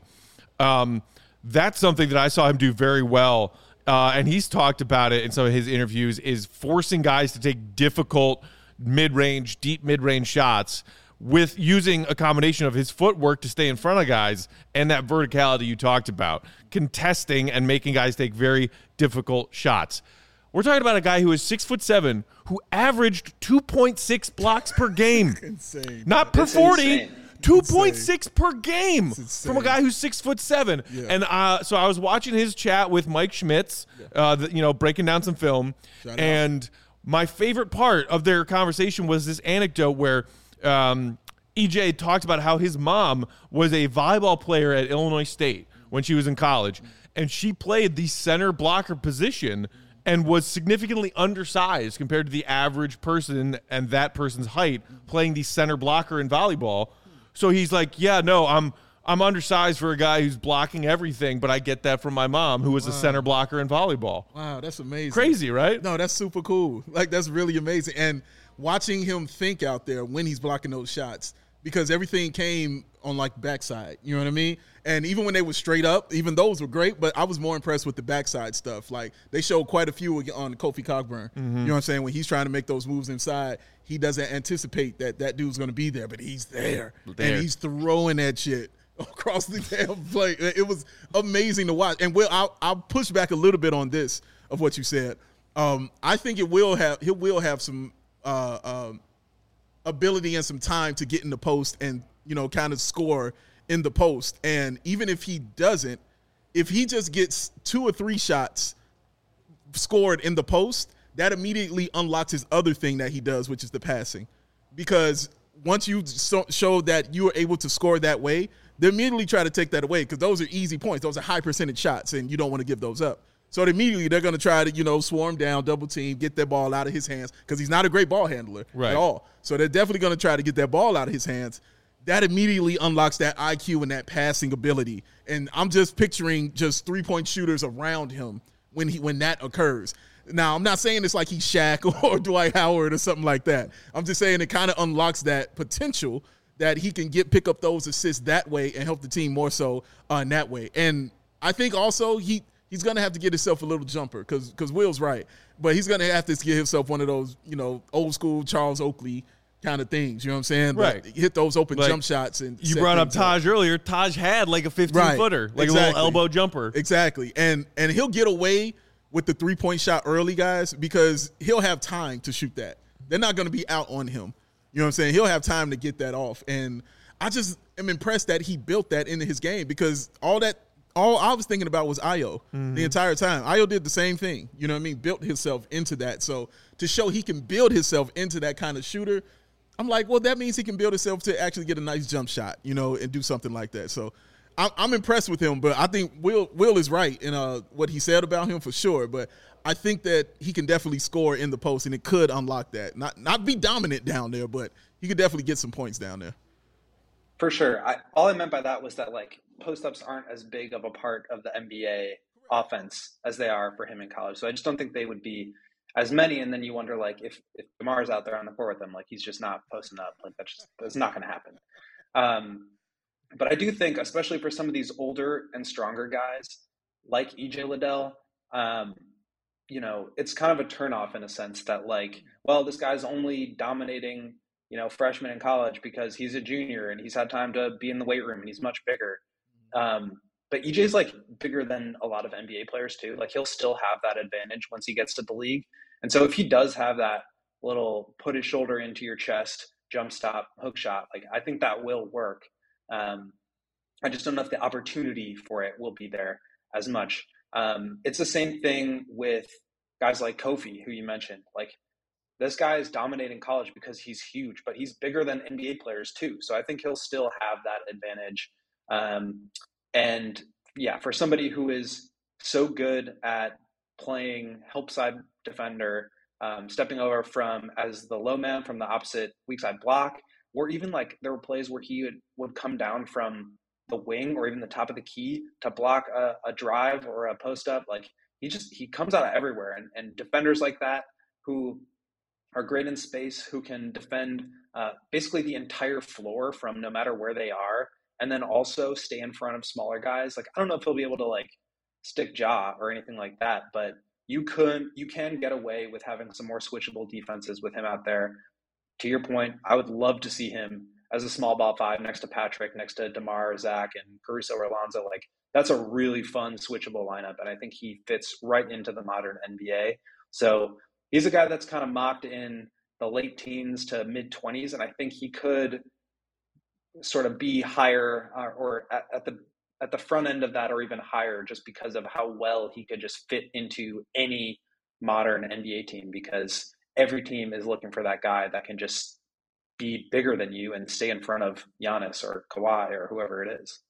Um, that's something that I saw him do very well, uh, and he's talked about it in some of his interviews, is forcing guys to take difficult mid-range, deep mid-range shots with using a combination of his footwork to stay in front of guys and that verticality you talked about, contesting and making guys take very difficult shots. We're talking about a guy who is six foot seven, who averaged two point six blocks per game. Insane. Not per forty, two point six per game from a guy who's six foot seven. Yeah. And uh, so I was watching his chat with Mike Schmitz, yeah. uh, the, you know, breaking down some film. Shout and out. My favorite part of their conversation was this anecdote where um, E J talked about how his mom was a volleyball player at Illinois State when she was in college, and she played the center blocker position and was significantly undersized compared to the average person and that person's height playing the center blocker in volleyball. So he's like, yeah, no, I'm I'm undersized for a guy who's blocking everything, but I get that from my mom, who was wow. a center blocker in volleyball. Wow, that's amazing. Crazy, right? No, that's super cool. Like, that's really amazing. And watching him think out there when he's blocking those shots, because everything came on, like, backside. You know what I mean? And even when they were straight up, even those were great, but I was more impressed with the backside stuff. Like, they showed quite a few on Kofi Cockburn. Mm-hmm. You know what I'm saying? When he's trying to make those moves inside, he doesn't anticipate that that dude's going to be there, but he's there. there. And he's throwing that shit across the damn play. It was amazing to watch. And Will, I'll, I'll push back a little bit on this of what you said. Um, I think it will have he will have some uh, um, ability and some time to get in the post and, you know, kind of score in the post. And even if he doesn't, if he just gets two or three shots scored in the post, that immediately unlocks his other thing that he does, which is the passing. Because once you so, show that you are able to score that way, they immediately try to take that away because those are easy points. Those are high percentage shots, and you don't want to give those up. So immediately they're going to try to, you know, swarm down, double team, get that ball out of his hands because he's not a great ball handler right. at all. So they're definitely going to try to get that ball out of his hands. That immediately unlocks that I Q and that passing ability. And I'm just picturing just three-point shooters around him when he when that occurs. Now, I'm not saying it's like he's Shaq or Dwight Howard or something like that. I'm just saying it kind of unlocks that potential that he can get pick up those assists that way and help the team more so uh, in that way. And I think also he he's going to have to get himself a little jumper because because Will's right. But he's going to have to get himself one of those, you know, old school Charles Oakley kind of things. You know what I'm saying? Right. But hit those open like, jump shots. And you brought up Taj up. earlier. Taj had like a fifteen-footer, right. like exactly. a little elbow jumper. Exactly. And and he'll get away with the three-point shot early, guys, because he'll have time to shoot that. They're not going to be out on him. You know what I'm saying? He'll have time to get that off. And I just am impressed that he built that into his game because all that all I was thinking about was Ayo mm-hmm. the entire time. Ayo did the same thing. You know what I mean? Built himself into that. So to show he can build himself into that kind of shooter, I'm like, well, that means he can build himself to actually get a nice jump shot, you know, and do something like that. So I'm, I'm impressed with him, but I think Will Will is right in uh, what he said about him for sure. But I think that he can definitely score in the post, and it could unlock that. Not not be dominant down there, but he could definitely get some points down there. For sure. I, all I meant by that was that, like, post-ups aren't as big of a part of the N B A offense as they are for him in college. So I just don't think they would be as many. And then you wonder, like, if, if DeMar's out there on the court with them, like, he's just not posting up. Like, that's just that's not going to happen. Um, but I do think, especially for some of these older and stronger guys, like E J Liddell, um, you know, it's kind of a turnoff in a sense that, like, well, this guy's only dominating, you know, freshman in college because he's a junior and he's had time to be in the weight room and he's much bigger. Um, but E J's like bigger than a lot of N B A players too. Like, he'll still have that advantage once he gets to the league. And so if he does have that little put his shoulder into your chest, jump stop, hook shot, like, I think that will work. Um, I just don't know if the opportunity for it will be there as much. Um, it's the same thing with guys like Kofi, who you mentioned. Like, this guy is dominating college because he's huge, but he's bigger than N B A players too. So I think he'll still have that advantage. Um, and yeah, for somebody who is so good at playing help side defender, um, stepping over from as the low man from the opposite weak side block, or even like there were plays where he would, would come down from the wing or even the top of the key to block a, a drive or a post up. Like, he just, he comes out of everywhere. And, and defenders like that who are great in space, who can defend uh, basically the entire floor from no matter where they are, and then also stay in front of smaller guys. Like, I don't know if he'll be able to like stick jaw or anything like that, but you could, you can get away with having some more switchable defenses with him out there. To your point, I would love to see him as a small ball five next to Patrick, next to DeMar, Zach, and Caruso or Alonzo. Like, that's a really fun switchable lineup, and I think he fits right into the modern N B A. So he's a guy that's kind of mocked in the late teens to mid-twenties, and I think he could sort of be higher uh, or at, at the at the front end of that or even higher just because of how well he could just fit into any modern N B A team, because every team is looking for that guy that can just be bigger than you and stay in front of Giannis or Kawhi or whoever it is.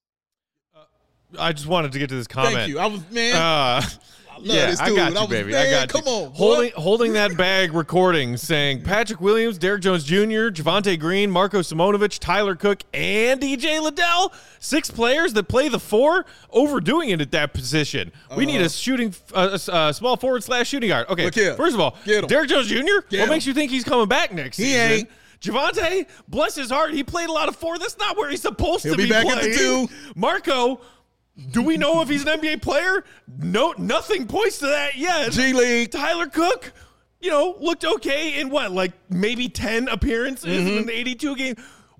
I just wanted to get to this comment. Thank you. I was, man. Uh, I yeah, this I dude. got you, I was, baby. man, I got come you. on, holding holding that bag, recording, saying Patrick Williams, Derrick Jones Junior, Javonte Green, Marko Simonovic, Tyler Cook, and E J Liddell. Six players that play the four, overdoing it at that position. We uh-huh. need a shooting, uh, a small forward slash shooting guard. Okay, first of all, Derrick Jones Junior, Get what him. makes you think he's coming back next he season? Ain't. Javonte, bless his heart, he played a lot of four. That's not where he's supposed He'll to be, be back playing. at the two. Marko, do we know if he's an N B A player? No, nothing points to that yet. G League. Tyler Cook, you know, looked okay in what, like maybe ten appearances mm-hmm. in an eighty-two game.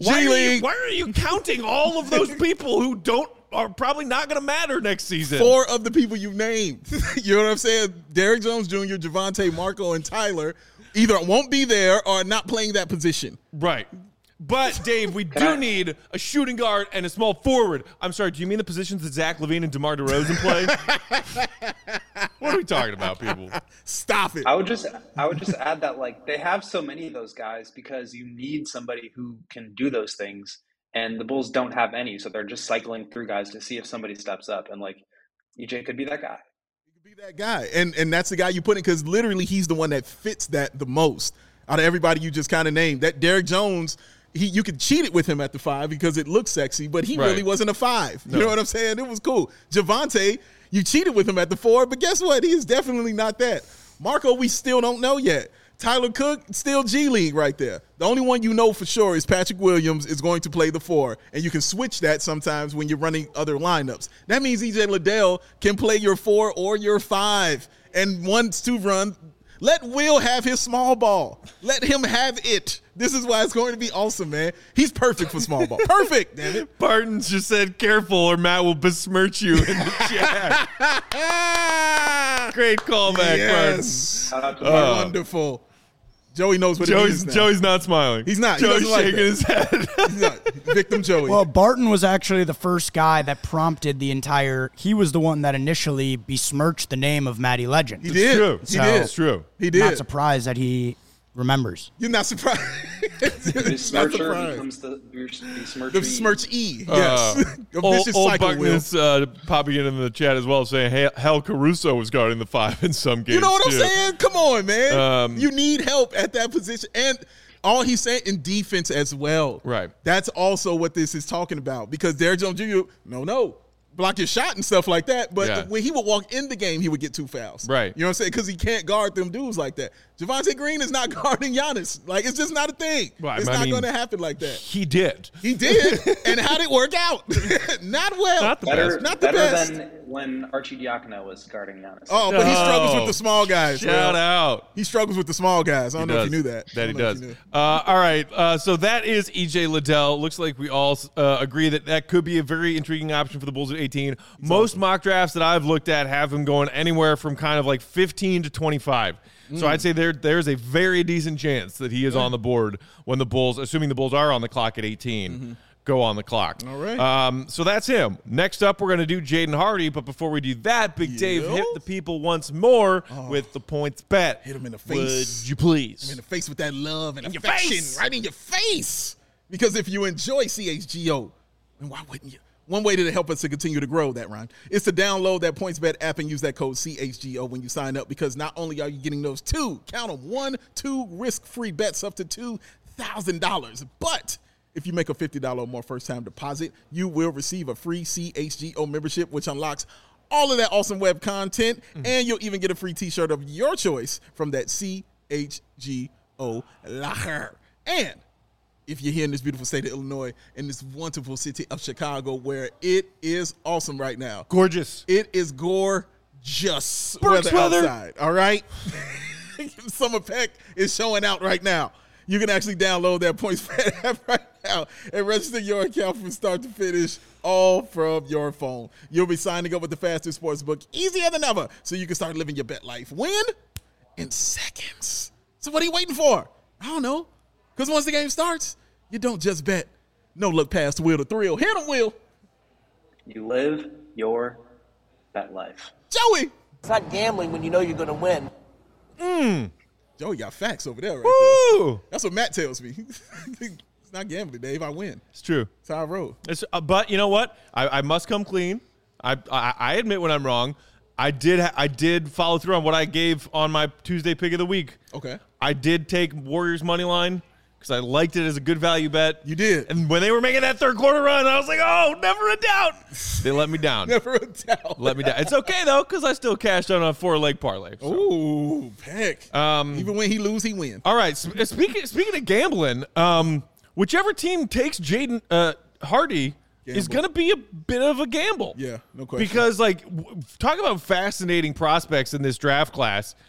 Why are, you, G-League. why are you counting all of those people who don't are probably not going to matter next season? Four of the people you named. You know what I'm saying? Derrick Jones Junior, Javonte, Marco, and Tyler either won't be there or are not playing that position. Right. But, Dave, we do need a shooting guard and a small forward. I'm sorry, do you mean the positions that Zach LaVine and DeMar DeRozan play? What are we talking about, people? Stop it. I would just I would just add that like they have so many of those guys because you need somebody who can do those things, and the Bulls don't have any, so they're just cycling through guys to see if somebody steps up, and like E J could be that guy. He could be that guy, and and that's the guy you put in because literally he's the one that fits that the most out of everybody you just kind of named. That Derrick Jones. He, you could cheat it with him at the five because it looks sexy, but he right. really wasn't a five. You no. know what I'm saying? It was cool. Javonte, you cheated with him at the four, but guess what? He is definitely not that. Marco, we still don't know yet. Tyler Cook, still G League right there. The only one you know for sure is Patrick Williams is going to play the four, and you can switch that sometimes when you're running other lineups. That means E J Liddell can play your four or your five, and once to run. Let Will have his small ball. Let him have it. This is why it's going to be awesome, man. He's perfect for small ball. Perfect, damn it. Barton's just said, careful or Matt will besmirch you in the chat. Great callback, yes. Shout out to Oh, Mark. wonderful. Joey knows what Joey's, it means now. Joey's not smiling. He's not. He Joey's doesn't like shaking that. his head. He's not. Victim Joey. Well, Barton was actually the first guy that prompted the entire – he was the one that initially besmirched the name of Matty Legend. he did. true. He So- did. It's true. He did. Not surprised that he remembers. You're not surprised. You're not Besmircher surprised. becomes the besmircher. The smirch E. Uh, Yes. A old vicious old cycle, Will. Buckness uh, popping in in the chat as well, saying, hey, Hal Caruso was guarding the five in some games. You know what I'm too. saying? Come on, man. Um, you need help at that position. And all he's saying in defense as well. Right. That's also what this is talking about. Because Derrick Jones Junior, no, no. Block your shot and stuff like that. But Yeah. when he would walk in the game, he would get two fouls. Right. You know what I'm saying? Because he can't guard them dudes like that. Javonte Green is not guarding Giannis. Like, it's just not a thing. Well, I it's mean- not going to happen like that. He did. He did. And how did it work out? Not well. Not the Better, best. Not the better best. than when Archie Diacono was guarding Giannis. Oh, but he struggles Oh, with the small guys. Shout Will. out. He struggles with the small guys. I don't He know does. if you knew that. I That he don't know if does. you knew. Uh, all right. Uh, so that is E J Liddell. Looks like we all uh, agree that that could be a very intriguing option for the Bulls at eighteen. Most mock drafts that I've looked at have him going anywhere from kind of like fifteen to twenty-five. So I'd say there there's a very decent chance that he is on the board when the Bulls, assuming the Bulls are on the clock at eighteen, go on the clock. All right. Um, so that's him. Next up, we're going to do Jaden Hardy. But before we do that, Big Dave, Yep. hit the people once more with the points bet. Hit him in the face. Would you please? In the face with that love and In your affection, face. right in your face. Because if you enjoy C H G O, then why wouldn't you? One way to help us to continue to grow that rhyme is to download that PointsBet app and use that code C H G O when you sign up, because not only are you getting those two, count them, one, two risk-free bets up to two thousand dollars, but if you make a fifty dollars or more first-time deposit, you will receive a free C H G O membership, which unlocks all of that awesome web content, mm-hmm. and you'll even get a free t-shirt of your choice from that C H G O locker. And if you're here in this beautiful state of Illinois, in this wonderful city of Chicago, where it is awesome right now. Gorgeous. It is gorgeous Berks weather weather. outside, all right? Summer Peck is showing out right now. You can actually download that PointsBet app right now and register your account from start to finish, all from your phone. You'll be signing up with the fastest sports book, easier than ever, so you can start living your bet life. When? In seconds. So what are you waiting for? I don't know. Because once the game starts, you don't just bet. No look past the wheel to thrill. Hit him, Will. You live your bet life. Joey. It's not gambling when you know you're going to win. Joey got facts over there right there. Woo! That's what Matt tells me. It's not gambling, Dave. I win. It's true. That's how I roll. It's, uh, but you know what? I, I must come clean. I, I I admit when I'm wrong. I did ha- I did follow through on what I gave on my Tuesday pick of the week. Okay. I did take Warriors money line because I liked it as a good value bet. You did. And when they were making that third quarter run, I was like, oh, never a doubt. They let me down. Never a doubt. Let me down. It's okay, though, because I still cashed out on a four-leg parlay. so. Ooh, Peck. Um, Even when he lose, he win. All right. Sp- speaking speaking of gambling, um, whichever team takes Jaden uh, Hardy is Gamble. going to be a bit of a gamble. Yeah, no question. Because, like, w- talk about fascinating prospects in this draft class.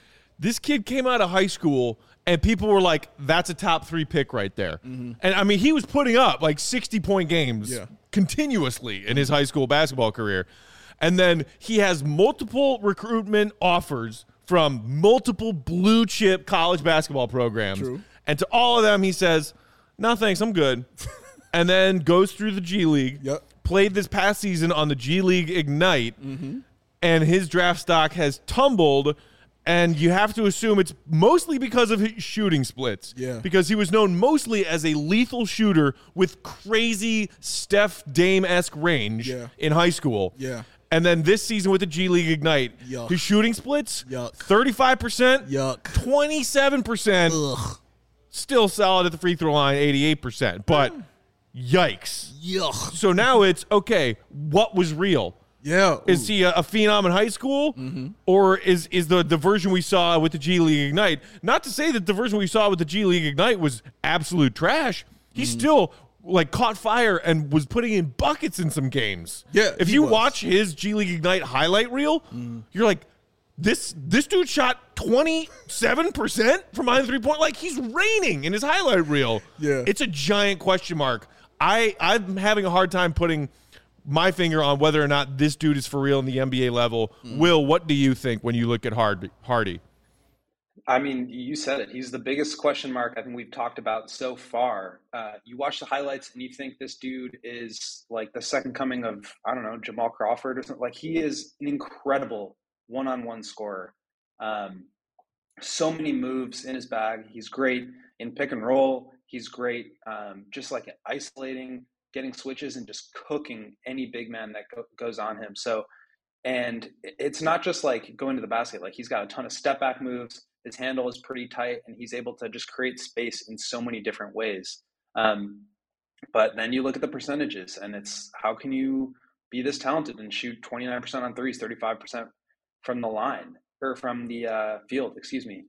This kid came out of high school, and people were like, that's a top three pick right there. Mm-hmm. And, I mean, he was putting up, like, sixty-point games yeah. continuously in his high school basketball career. And then he has multiple recruitment offers from multiple blue-chip college basketball programs. True. And to all of them, he says, no, thanks, I'm good. And then goes through the G League, yep. played this past season on the G League Ignite, mm-hmm. and his draft stock has tumbled. And you have to assume it's mostly because of his shooting splits. Yeah. Because he was known mostly as a lethal shooter with crazy Steph Dame-esque range yeah. in high school. Yeah. And then this season with the G League Ignite, Yuck. his shooting splits, Yuck. thirty-five percent, Yuck. twenty-seven percent, Ugh. still solid at the free throw line, eighty-eight percent. But yikes. Yuck. So now it's, okay, what was real? Yeah. Is he a, a phenom in high school, mm-hmm. or is is the, the version we saw with the G League Ignite? Not to say that the version we saw with the G League Ignite was absolute trash. He mm-hmm. still like caught fire and was putting in buckets in some games. Yeah. If you was. watch his G League Ignite highlight reel, mm. you're like, this this dude shot twenty-seven percent from behind the three point. Like he's raining in his highlight reel. Yeah. It's a giant question mark. I I'm having a hard time putting my finger on whether or not this dude is for real in the N B A level. Mm. Will, what do you think when you look at Hard, Hardy? I mean, you said it. He's the biggest question mark I think we've talked about so far. Uh, you watch the highlights and you think this dude is like the second coming of, I don't know, Jamal Crawford or something. Like he is an incredible one-on-one scorer. Um, so many moves in his bag. He's great in pick and roll. He's great um, just like isolating, getting switches and just cooking any big man that go- goes on him. So, and it's not just like going to the basket. Like he's got a ton of step back moves. His handle is pretty tight and he's able to just create space in so many different ways. Um, but then you look at the percentages and it's, how can you be this talented and shoot twenty-nine percent on threes, thirty-five percent from the line or from the uh, field, excuse me.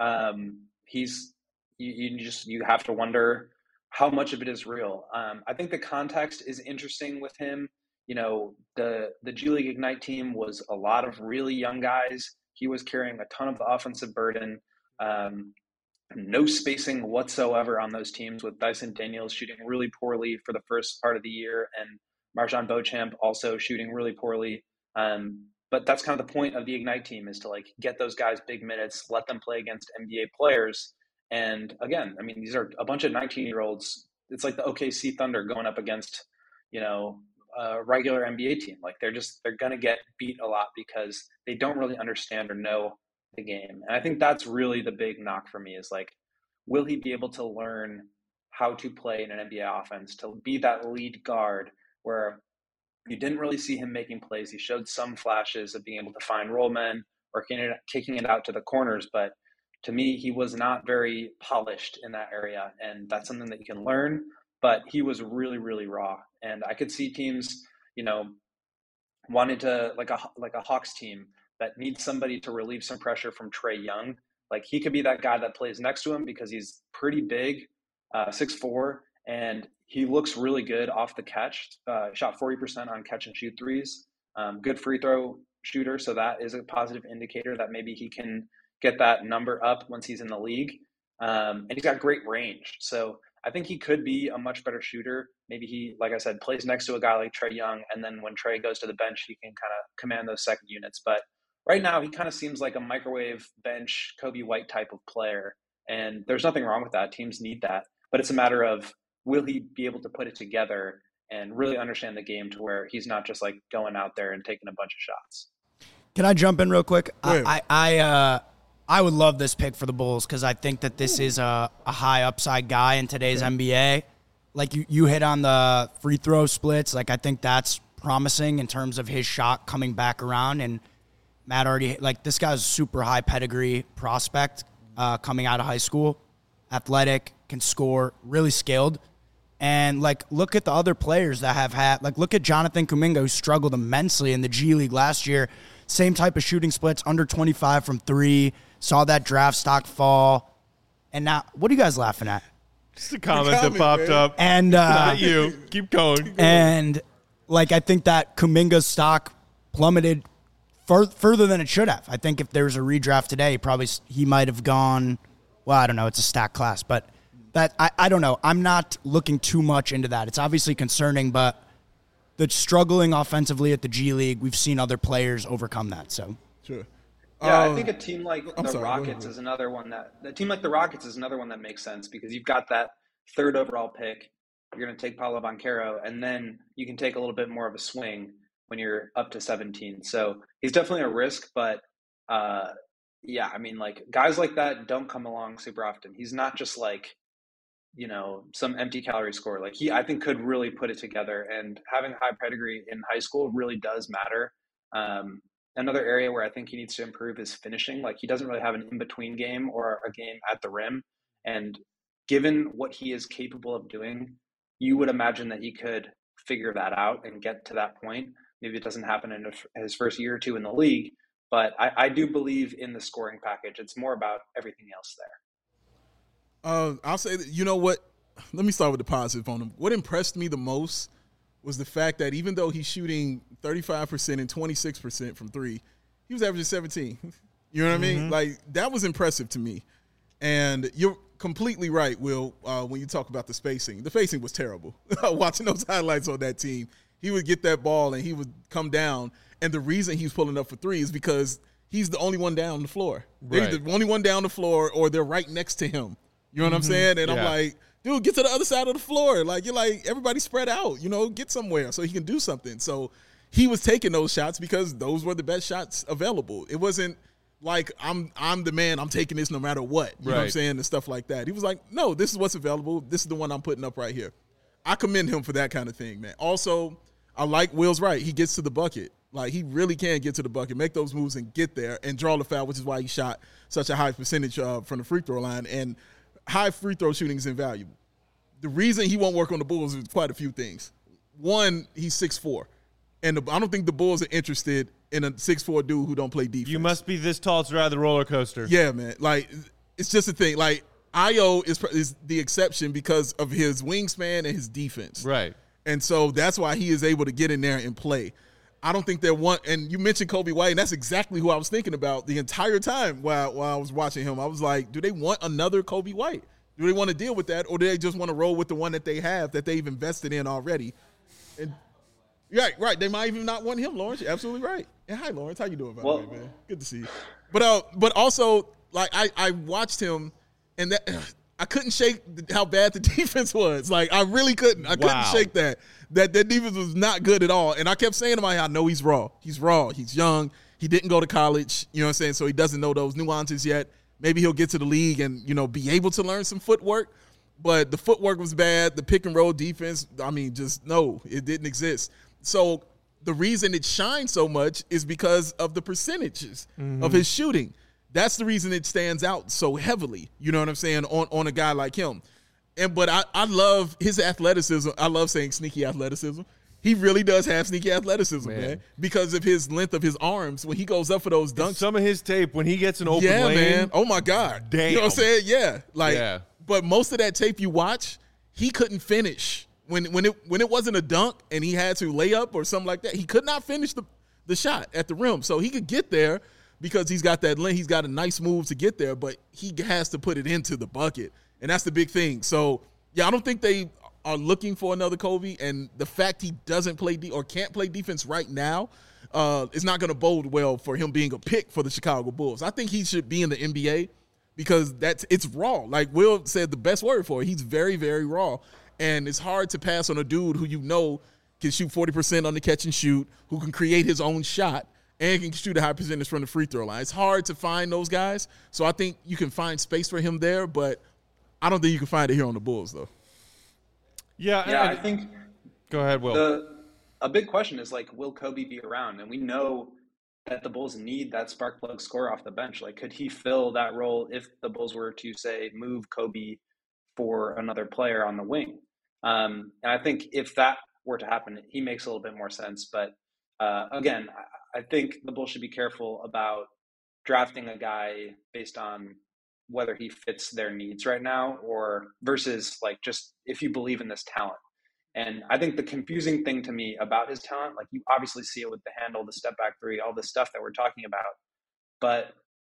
Um, he's, you, you just, you have to wonder how much of it is real. Um, I think the context is interesting with him. You know, the the G League Ignite team was a lot of really young guys. He was carrying a ton of the offensive burden. Um, no spacing whatsoever on those teams, with Dyson Daniels shooting really poorly for the first part of the year and Marjon Beauchamp also shooting really poorly. Um, but that's kind of the point of the Ignite team, is to like get those guys big minutes, let them play against N B A players. And again, I mean, these are a bunch of nineteen-year-olds. It's like the O K C Thunder going up against, you know, a regular N B A team. Like they're just, they're going to get beat a lot because they don't really understand or know the game. And I think that's really the big knock for me, is like, will he be able to learn how to play in an N B A offense, to be that lead guard where you didn't really see him making plays. He showed some flashes of being able to find roll men or kicking it out to the corners, but to me, he was not very polished in that area, and that's something that you can learn, but he was really, really raw. And I could see teams, you know, wanting to, like a like a Hawks team that needs somebody to relieve some pressure from Trae Young. Like he could be that guy that plays next to him because he's pretty big, uh, six foot four, and he looks really good off the catch. Uh, shot forty percent on catch and shoot threes. Um, good free throw shooter, so that is a positive indicator that maybe he can get that number up once he's in the league. Um, and he's got great range. So I think he could be a much better shooter. Maybe he, like I said, plays next to a guy like Trae Young, and then when Trae goes to the bench, he can kind of command those second units. But right now, he kind of seems like a microwave bench Kobe White type of player. And there's nothing wrong with that. Teams need that. But it's a matter of, will he be able to put it together and really understand the game to where he's not just like going out there and taking a bunch of shots. Can I jump in real quick? I, I, I, uh, I would love this pick for the Bulls because I think that this is a, a high upside guy in today's okay. N B A. Like you, you hit on the free throw splits. Like I think that's promising in terms of his shot coming back around. And Matt already, like this guy's a super high pedigree prospect uh, coming out of high school. Athletic, can score, really skilled. And, like, look at the other players that have had – like, look at Jonathan Kuminga, who struggled immensely in the G League last year. Same type of shooting splits, under twenty-five from three, saw that draft stock fall. And now – what are you guys laughing at? Just a comment, comment that popped man. up. And uh, not you. Keep going. And, like, I think that Kuminga's stock plummeted fur- further than it should have. I think if there was a redraft today, probably he might have gone, well, I don't know, it's a stacked class, but that I, I don't know. I'm not looking too much into that. It's obviously concerning, but the struggling offensively at the G League, we've seen other players overcome that. So Sure. Yeah, Um, I think a team like I'm the sorry, go Rockets ahead. is another one that a team like the Rockets is another one that makes sense because you've got that third overall pick. You're going to take Paolo Banchero, and then you can take a little bit more of a swing when you're up to seventeen. So he's definitely a risk, but uh, yeah, I mean, like guys like that don't come along super often. He's not just like, you know, some empty calorie score. Like he, I think, could really put it together. And having high pedigree in high school really does matter. Um, Another area where I think he needs to improve is finishing. Like he doesn't really have an in-between game or a game at the rim. And given what he is capable of doing, you would imagine that he could figure that out and get to that point. Maybe it doesn't happen in his first year or two in the league, but I, I do believe in the scoring package. It's more about everything else there. Uh, I'll say that, you know what? Let me start with the positive on him. What impressed me the most was the fact that even though he's shooting thirty-five percent and twenty-six percent from three, he was averaging seventeen. You know what mm-hmm. I mean? Like, that was impressive to me. And you're completely right, Will, uh, when you talk about the spacing. The spacing was terrible. Watching those highlights on that team, he would get that ball and he would come down. And the reason he's pulling up for three is because he's the only one down the floor. Right. They're the only one down the floor or they're right next to him. You know what mm-hmm. I'm saying? And yeah. I'm like, dude, get to the other side of the floor. Like, you're like, everybody spread out, you know, get somewhere so he can do something. So he was taking those shots because those were the best shots available. It wasn't like I'm I'm the man, I'm taking this no matter what. You right. know what I'm saying? And stuff like that. He was like, no, this is what's available. This is the one I'm putting up right here. I commend him for that kind of thing, man. Also, I like Will's right. He gets to the bucket. Like, he really can get to the bucket, make those moves and get there and draw the foul, which is why he shot such a high percentage uh, from the free throw line. And high free throw shooting is invaluable. The reason he won't work on the Bulls is quite a few things. One, he's six foot four. And the, I don't think the Bulls are interested in a six foot four dude who don't play defense. You must be this tall to ride the roller coaster. Yeah, man. Like, it's just a thing. Like, Ayo is, is the exception because of his wingspan and his defense. Right. And so that's why he is able to get in there and play. I don't think they're one. And you mentioned Kobe White, and that's exactly who I was thinking about the entire time while, while I was watching him. I was like, do they want another Kobe White? Do they want to deal with that, or do they just want to roll with the one that they have that they've invested in already? And right, right. They might even not want him, Lawrence. You're absolutely right. And hi, Lawrence. How you doing, by well, the way, man? Good to see you. But uh, but also, like I, I watched him, and that I couldn't shake how bad the defense was. Like, I really couldn't. I wow. couldn't shake that. That that defense was not good at all. And I kept saying to my, I know he's raw. He's raw. He's young. He didn't go to college. You know what I'm saying? So he doesn't know those nuances yet. Maybe he'll get to the league and, you know, be able to learn some footwork. But the footwork was bad. The pick and roll defense, I mean, just no, it didn't exist. So the reason it shines so much is because of the percentages mm-hmm. of his shooting. That's the reason it stands out so heavily, you know what I'm saying, on, on a guy like him. And But I, I love his athleticism. I love saying sneaky athleticism. He really does have sneaky athleticism, man. man, because of his length of his arms. When he goes up for those dunks. Some of his tape, when he gets an open yeah, lane. Yeah, man. Oh, my God. Damn. You know what I'm saying? Yeah. Like, yeah. But most of that tape you watch, he couldn't finish. When when it when it wasn't a dunk and he had to lay up or something like that, he could not finish the, the shot at the rim. So he could get there because he's got that length. He's got a nice move to get there, but he has to put it into the bucket. And that's the big thing. So, yeah, I don't think they – are looking for another Kobe, and the fact he doesn't play de- or can't play defense right now uh, is not going to bode well for him being a pick for the Chicago Bulls. I think he should be in the N B A because that's it's raw. Like Will said, the best word for it. He's very, very raw, and it's hard to pass on a dude who you know can shoot forty percent on the catch and shoot, who can create his own shot, and can shoot a high percentage from the free throw line. It's hard to find those guys, so I think you can find space for him there, but I don't think you can find it here on the Bulls, though. Yeah, yeah. I, I think. Go ahead, Will. The, a big question is like, will Kobe be around? And we know that the Bulls need that spark plug scorer off the bench. Like, could he fill that role if the Bulls were to say move Kobe for another player on the wing? Um, and I think if that were to happen, he makes a little bit more sense. But uh, again, I, I think the Bulls should be careful about drafting a guy based on whether he fits their needs right now or versus like just if you believe in this talent. And I think the confusing thing to me about his talent, like you obviously see it with the handle, the step back three, all the stuff that we're talking about. But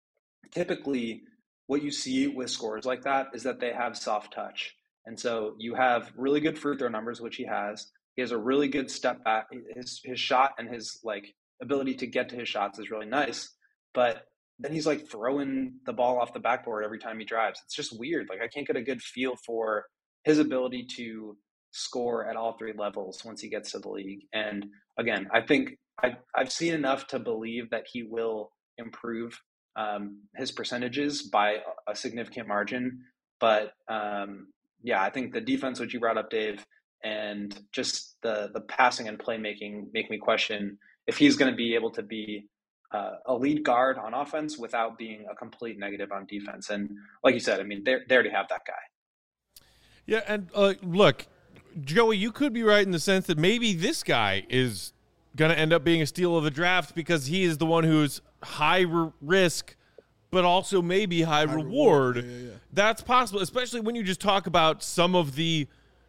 typically what you see with scorers like that is that they have soft touch. And so you have really good free throw numbers, which he has. He has a really good step back. His his shot and his like ability to get to his shots is really nice. But then he's like throwing the ball off the backboard every time he drives. It's just weird. Like I can't get a good feel for his ability to score at all three levels once he gets to the league. And again, I think I, I've seen enough to believe that he will improve um, his percentages by a significant margin. But um, yeah, I think the defense, which you brought up, Dave, and just the the passing and playmaking make me question if he's going to be able to be uh, a lead guard on offense without being a complete negative on defense. And like you said, I mean, they they already have that guy. Yeah, and uh, look, Joey, you could be right in the sense that maybe this guy is going to end up being a steal of the draft because he is the one who's high r- risk, but also maybe high, high reward. reward. Yeah, yeah, yeah. That's possible, especially when you just talk about some of the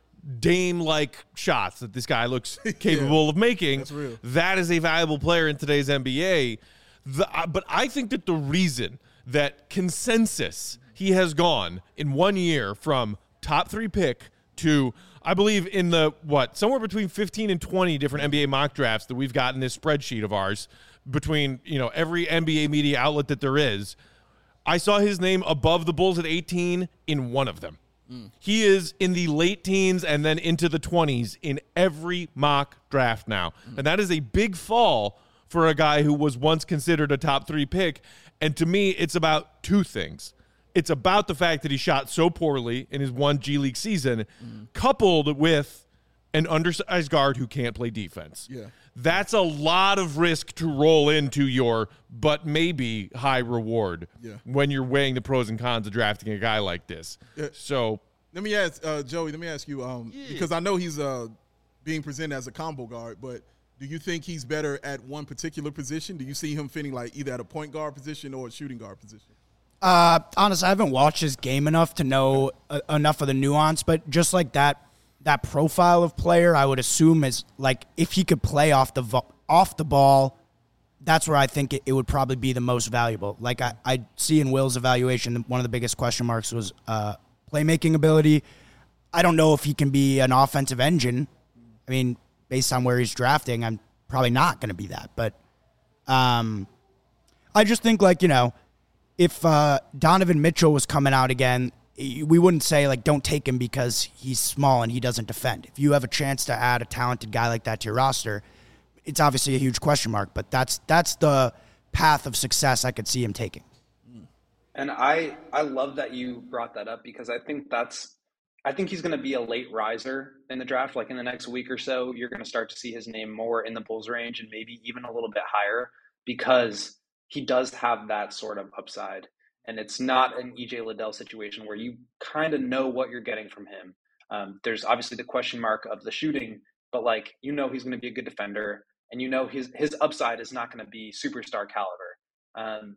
Dame-like shots that this guy looks capable yeah, of making. That's real. That is a valuable player in today's N B A. The, uh, but I think that the reason that consensus he has gone in one year from top three pick to – I believe in the, what, somewhere between fifteen and twenty different N B A mock drafts that we've got in this spreadsheet of ours between, you know, every N B A media outlet that there is. I saw his name above the Bulls at eighteen in one of them. Mm. He is in the late teens and then into the twenties in every mock draft now. Mm. And that is a big fall for a guy who was once considered a top three pick. And to me, it's about two things. It's about the fact that he shot so poorly in his one G League season, mm. coupled with an undersized guard who can't play defense. Yeah. That's a lot of risk to roll into your but maybe high reward yeah. when you're weighing the pros and cons of drafting a guy like this. Yeah. So let me ask, uh, Joey, let me ask you, um, yeah. because I know he's uh, being presented as a combo guard, but do you think he's better at one particular position? Do you see him fitting like either at a point guard position or a shooting guard position? Uh, honestly, I haven't watched his game enough to know uh, enough of the nuance, but just like that, that profile of player, I would assume is like if he could play off the vo- off the ball, that's where I think it, it would probably be the most valuable. Like I, I see in Will's evaluation, one of the biggest question marks was uh, playmaking ability. I don't know if he can be an offensive engine. I mean, based on where he's drafting, I'm probably not going to be that. But um, I just think like, you know, if uh, Donovan Mitchell was coming out again, we wouldn't say, like, don't take him because he's small and he doesn't defend. If you have a chance to add a talented guy like that to your roster, it's obviously a huge question mark, but that's that's the path of success I could see him taking. And I, I love that you brought that up because I think that's I think he's going to be a late riser in the draft. Like in the next week or so, you're going to start to see his name more in the Bulls range and maybe even a little bit higher because he does have that sort of upside. And it's not an E J Liddell situation where you kind of know what you're getting from him. Um, there's obviously the question mark of the shooting, but like, you know, he's going to be a good defender and you know, his, his upside is not going to be superstar caliber. Um,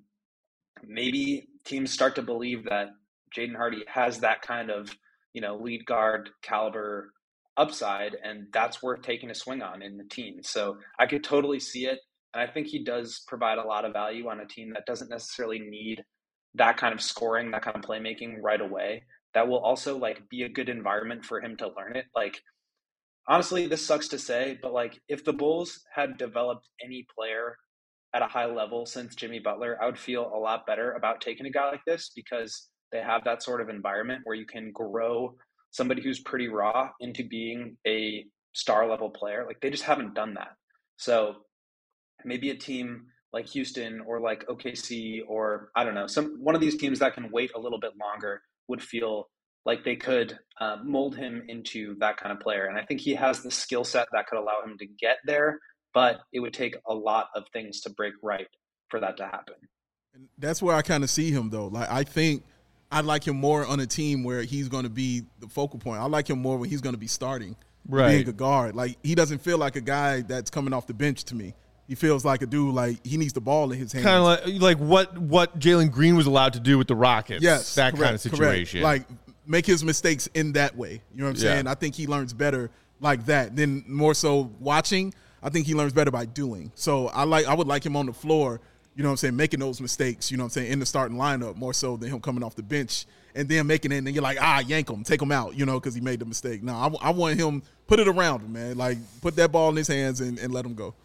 maybe teams start to believe that Jaden Hardy has that kind of, you know, lead guard caliber upside, and that's worth taking a swing on in the team. So I could totally see it. And I think he does provide a lot of value on a team that doesn't necessarily need that kind of scoring, that kind of playmaking right away. That will also like be a good environment for him to learn it. Like, honestly, this sucks to say, but like if the Bulls had developed any player at a high level since Jimmy Butler, I would feel a lot better about taking a guy like this because they have that sort of environment where you can grow somebody who's pretty raw into being a star level player. Like they just haven't done that. So maybe a team like Houston or like O K C or I don't know, some one of these teams that can wait a little bit longer would feel like they could uh, mold him into that kind of player. And I think he has the skill set that could allow him to get there, but it would take a lot of things to break right for that to happen. And that's where I kind of see him though. Like I think I'd like him more on a team where he's going to be the focal point. I like him more when he's going to be starting, right, being a guard. Like he doesn't feel like a guy that's coming off the bench to me. He feels like a dude like he needs the ball in his hands. Kind of like, like what what Jalen Green was allowed to do with the Rockets. Yes, that correct, kind of situation. Correct. Like make his mistakes in that way. You know what I'm yeah. saying? I think he learns better like that. Then more so watching, I think he learns better by doing. So I like I would like him on the floor, you know what I'm saying, making those mistakes, you know what I'm saying, in the starting lineup more so than him coming off the bench and then making it, and then you're like, ah, yank him, take him out, you know, because he made the mistake. No, I, I want him, put it around him, man. Like, put that ball in his hands and, and let him go.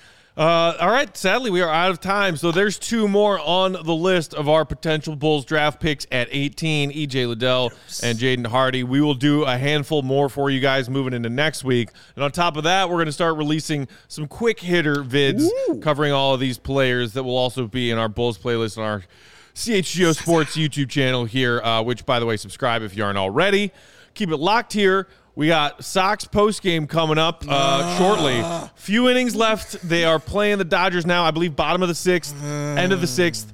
Uh, all right, sadly, we are out of time. So there's two more on the list of our potential Bulls draft picks at eighteen, E J Liddell yes. and Jaden Hardy. We will do a handful more for you guys moving into next week. And on top of that, we're going to start releasing some quick hitter vids Ooh. covering all of these players that will also be in our Bulls playlist on our C H G O Sports YouTube channel here, uh, which, by the way, subscribe if you aren't already. Keep it locked here. We got Sox postgame coming up uh, uh, shortly. Few innings left. They are playing the Dodgers now, I believe, bottom of the sixth, uh, end of the sixth,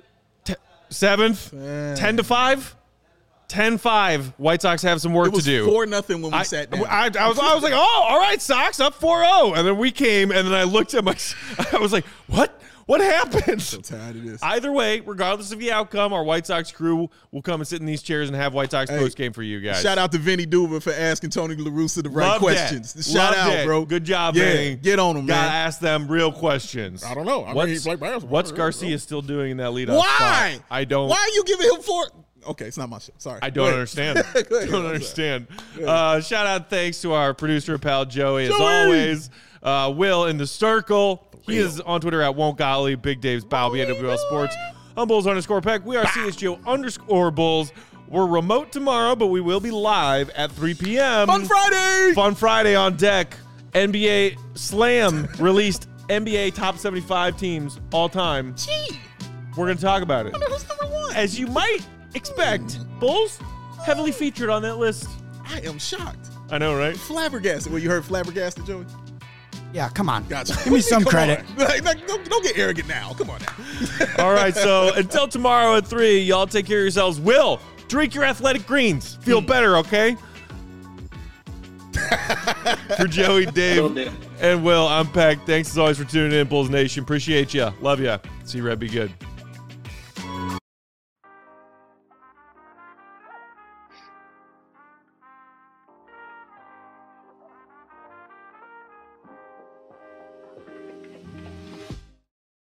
t- seventh, uh, ten to five. ten five. White Sox have some work it was to do. four nothing when we I, sat down. I, I, was, I was like, oh, all right, Sox up four oh. And then we came, and then I looked at my – I was like, what? What happened? So tired of this. Either way, regardless of the outcome, our White Sox crew will come and sit in these chairs and have White Sox hey, post game for you guys. Shout out to Vinny Duva for asking Tony La Russa the right Love questions. That. Shout Love out, that. bro. Good job, yeah, Vinny. Get on him, man. Gotta ask them real questions. I don't know. I what's mean, like what's Garcia still doing in that leadoff Why? spot? I don't. Why are you giving him four? Okay, it's not my show. Sorry. I don't understand. I don't understand. Uh, shout out, thanks to our producer pal Joey, Joey. as always. Uh, Will in the circle. He is on Twitter at Won't Golly, Big Dave's Bow, B N W L Sports. I'm Bulls underscore Peck. We are C H G O underscore Bulls. We're remote tomorrow, but we will be live at three p.m. Fun Friday! Fun Friday on deck. N B A Slam released N B A top seventy-five teams all time. Gee. We're going to talk about it. I know who's number one. As you might expect, Bulls heavily featured on that list. I am shocked. I know, right? Flabbergasted. Well, you heard flabbergasted, Joey? Yeah, come on. Gotcha. Give me some credit. Like, like, don't, don't get arrogant now. Come on now. All right, so until tomorrow at three, y'all take care of yourselves. Will, drink your athletic greens. Feel mm. better, okay? For Joey, Dave, and Will, I'm Peck. Thanks as always for tuning in, Bulls Nation. Appreciate you. Love you. See you, Red. Be good.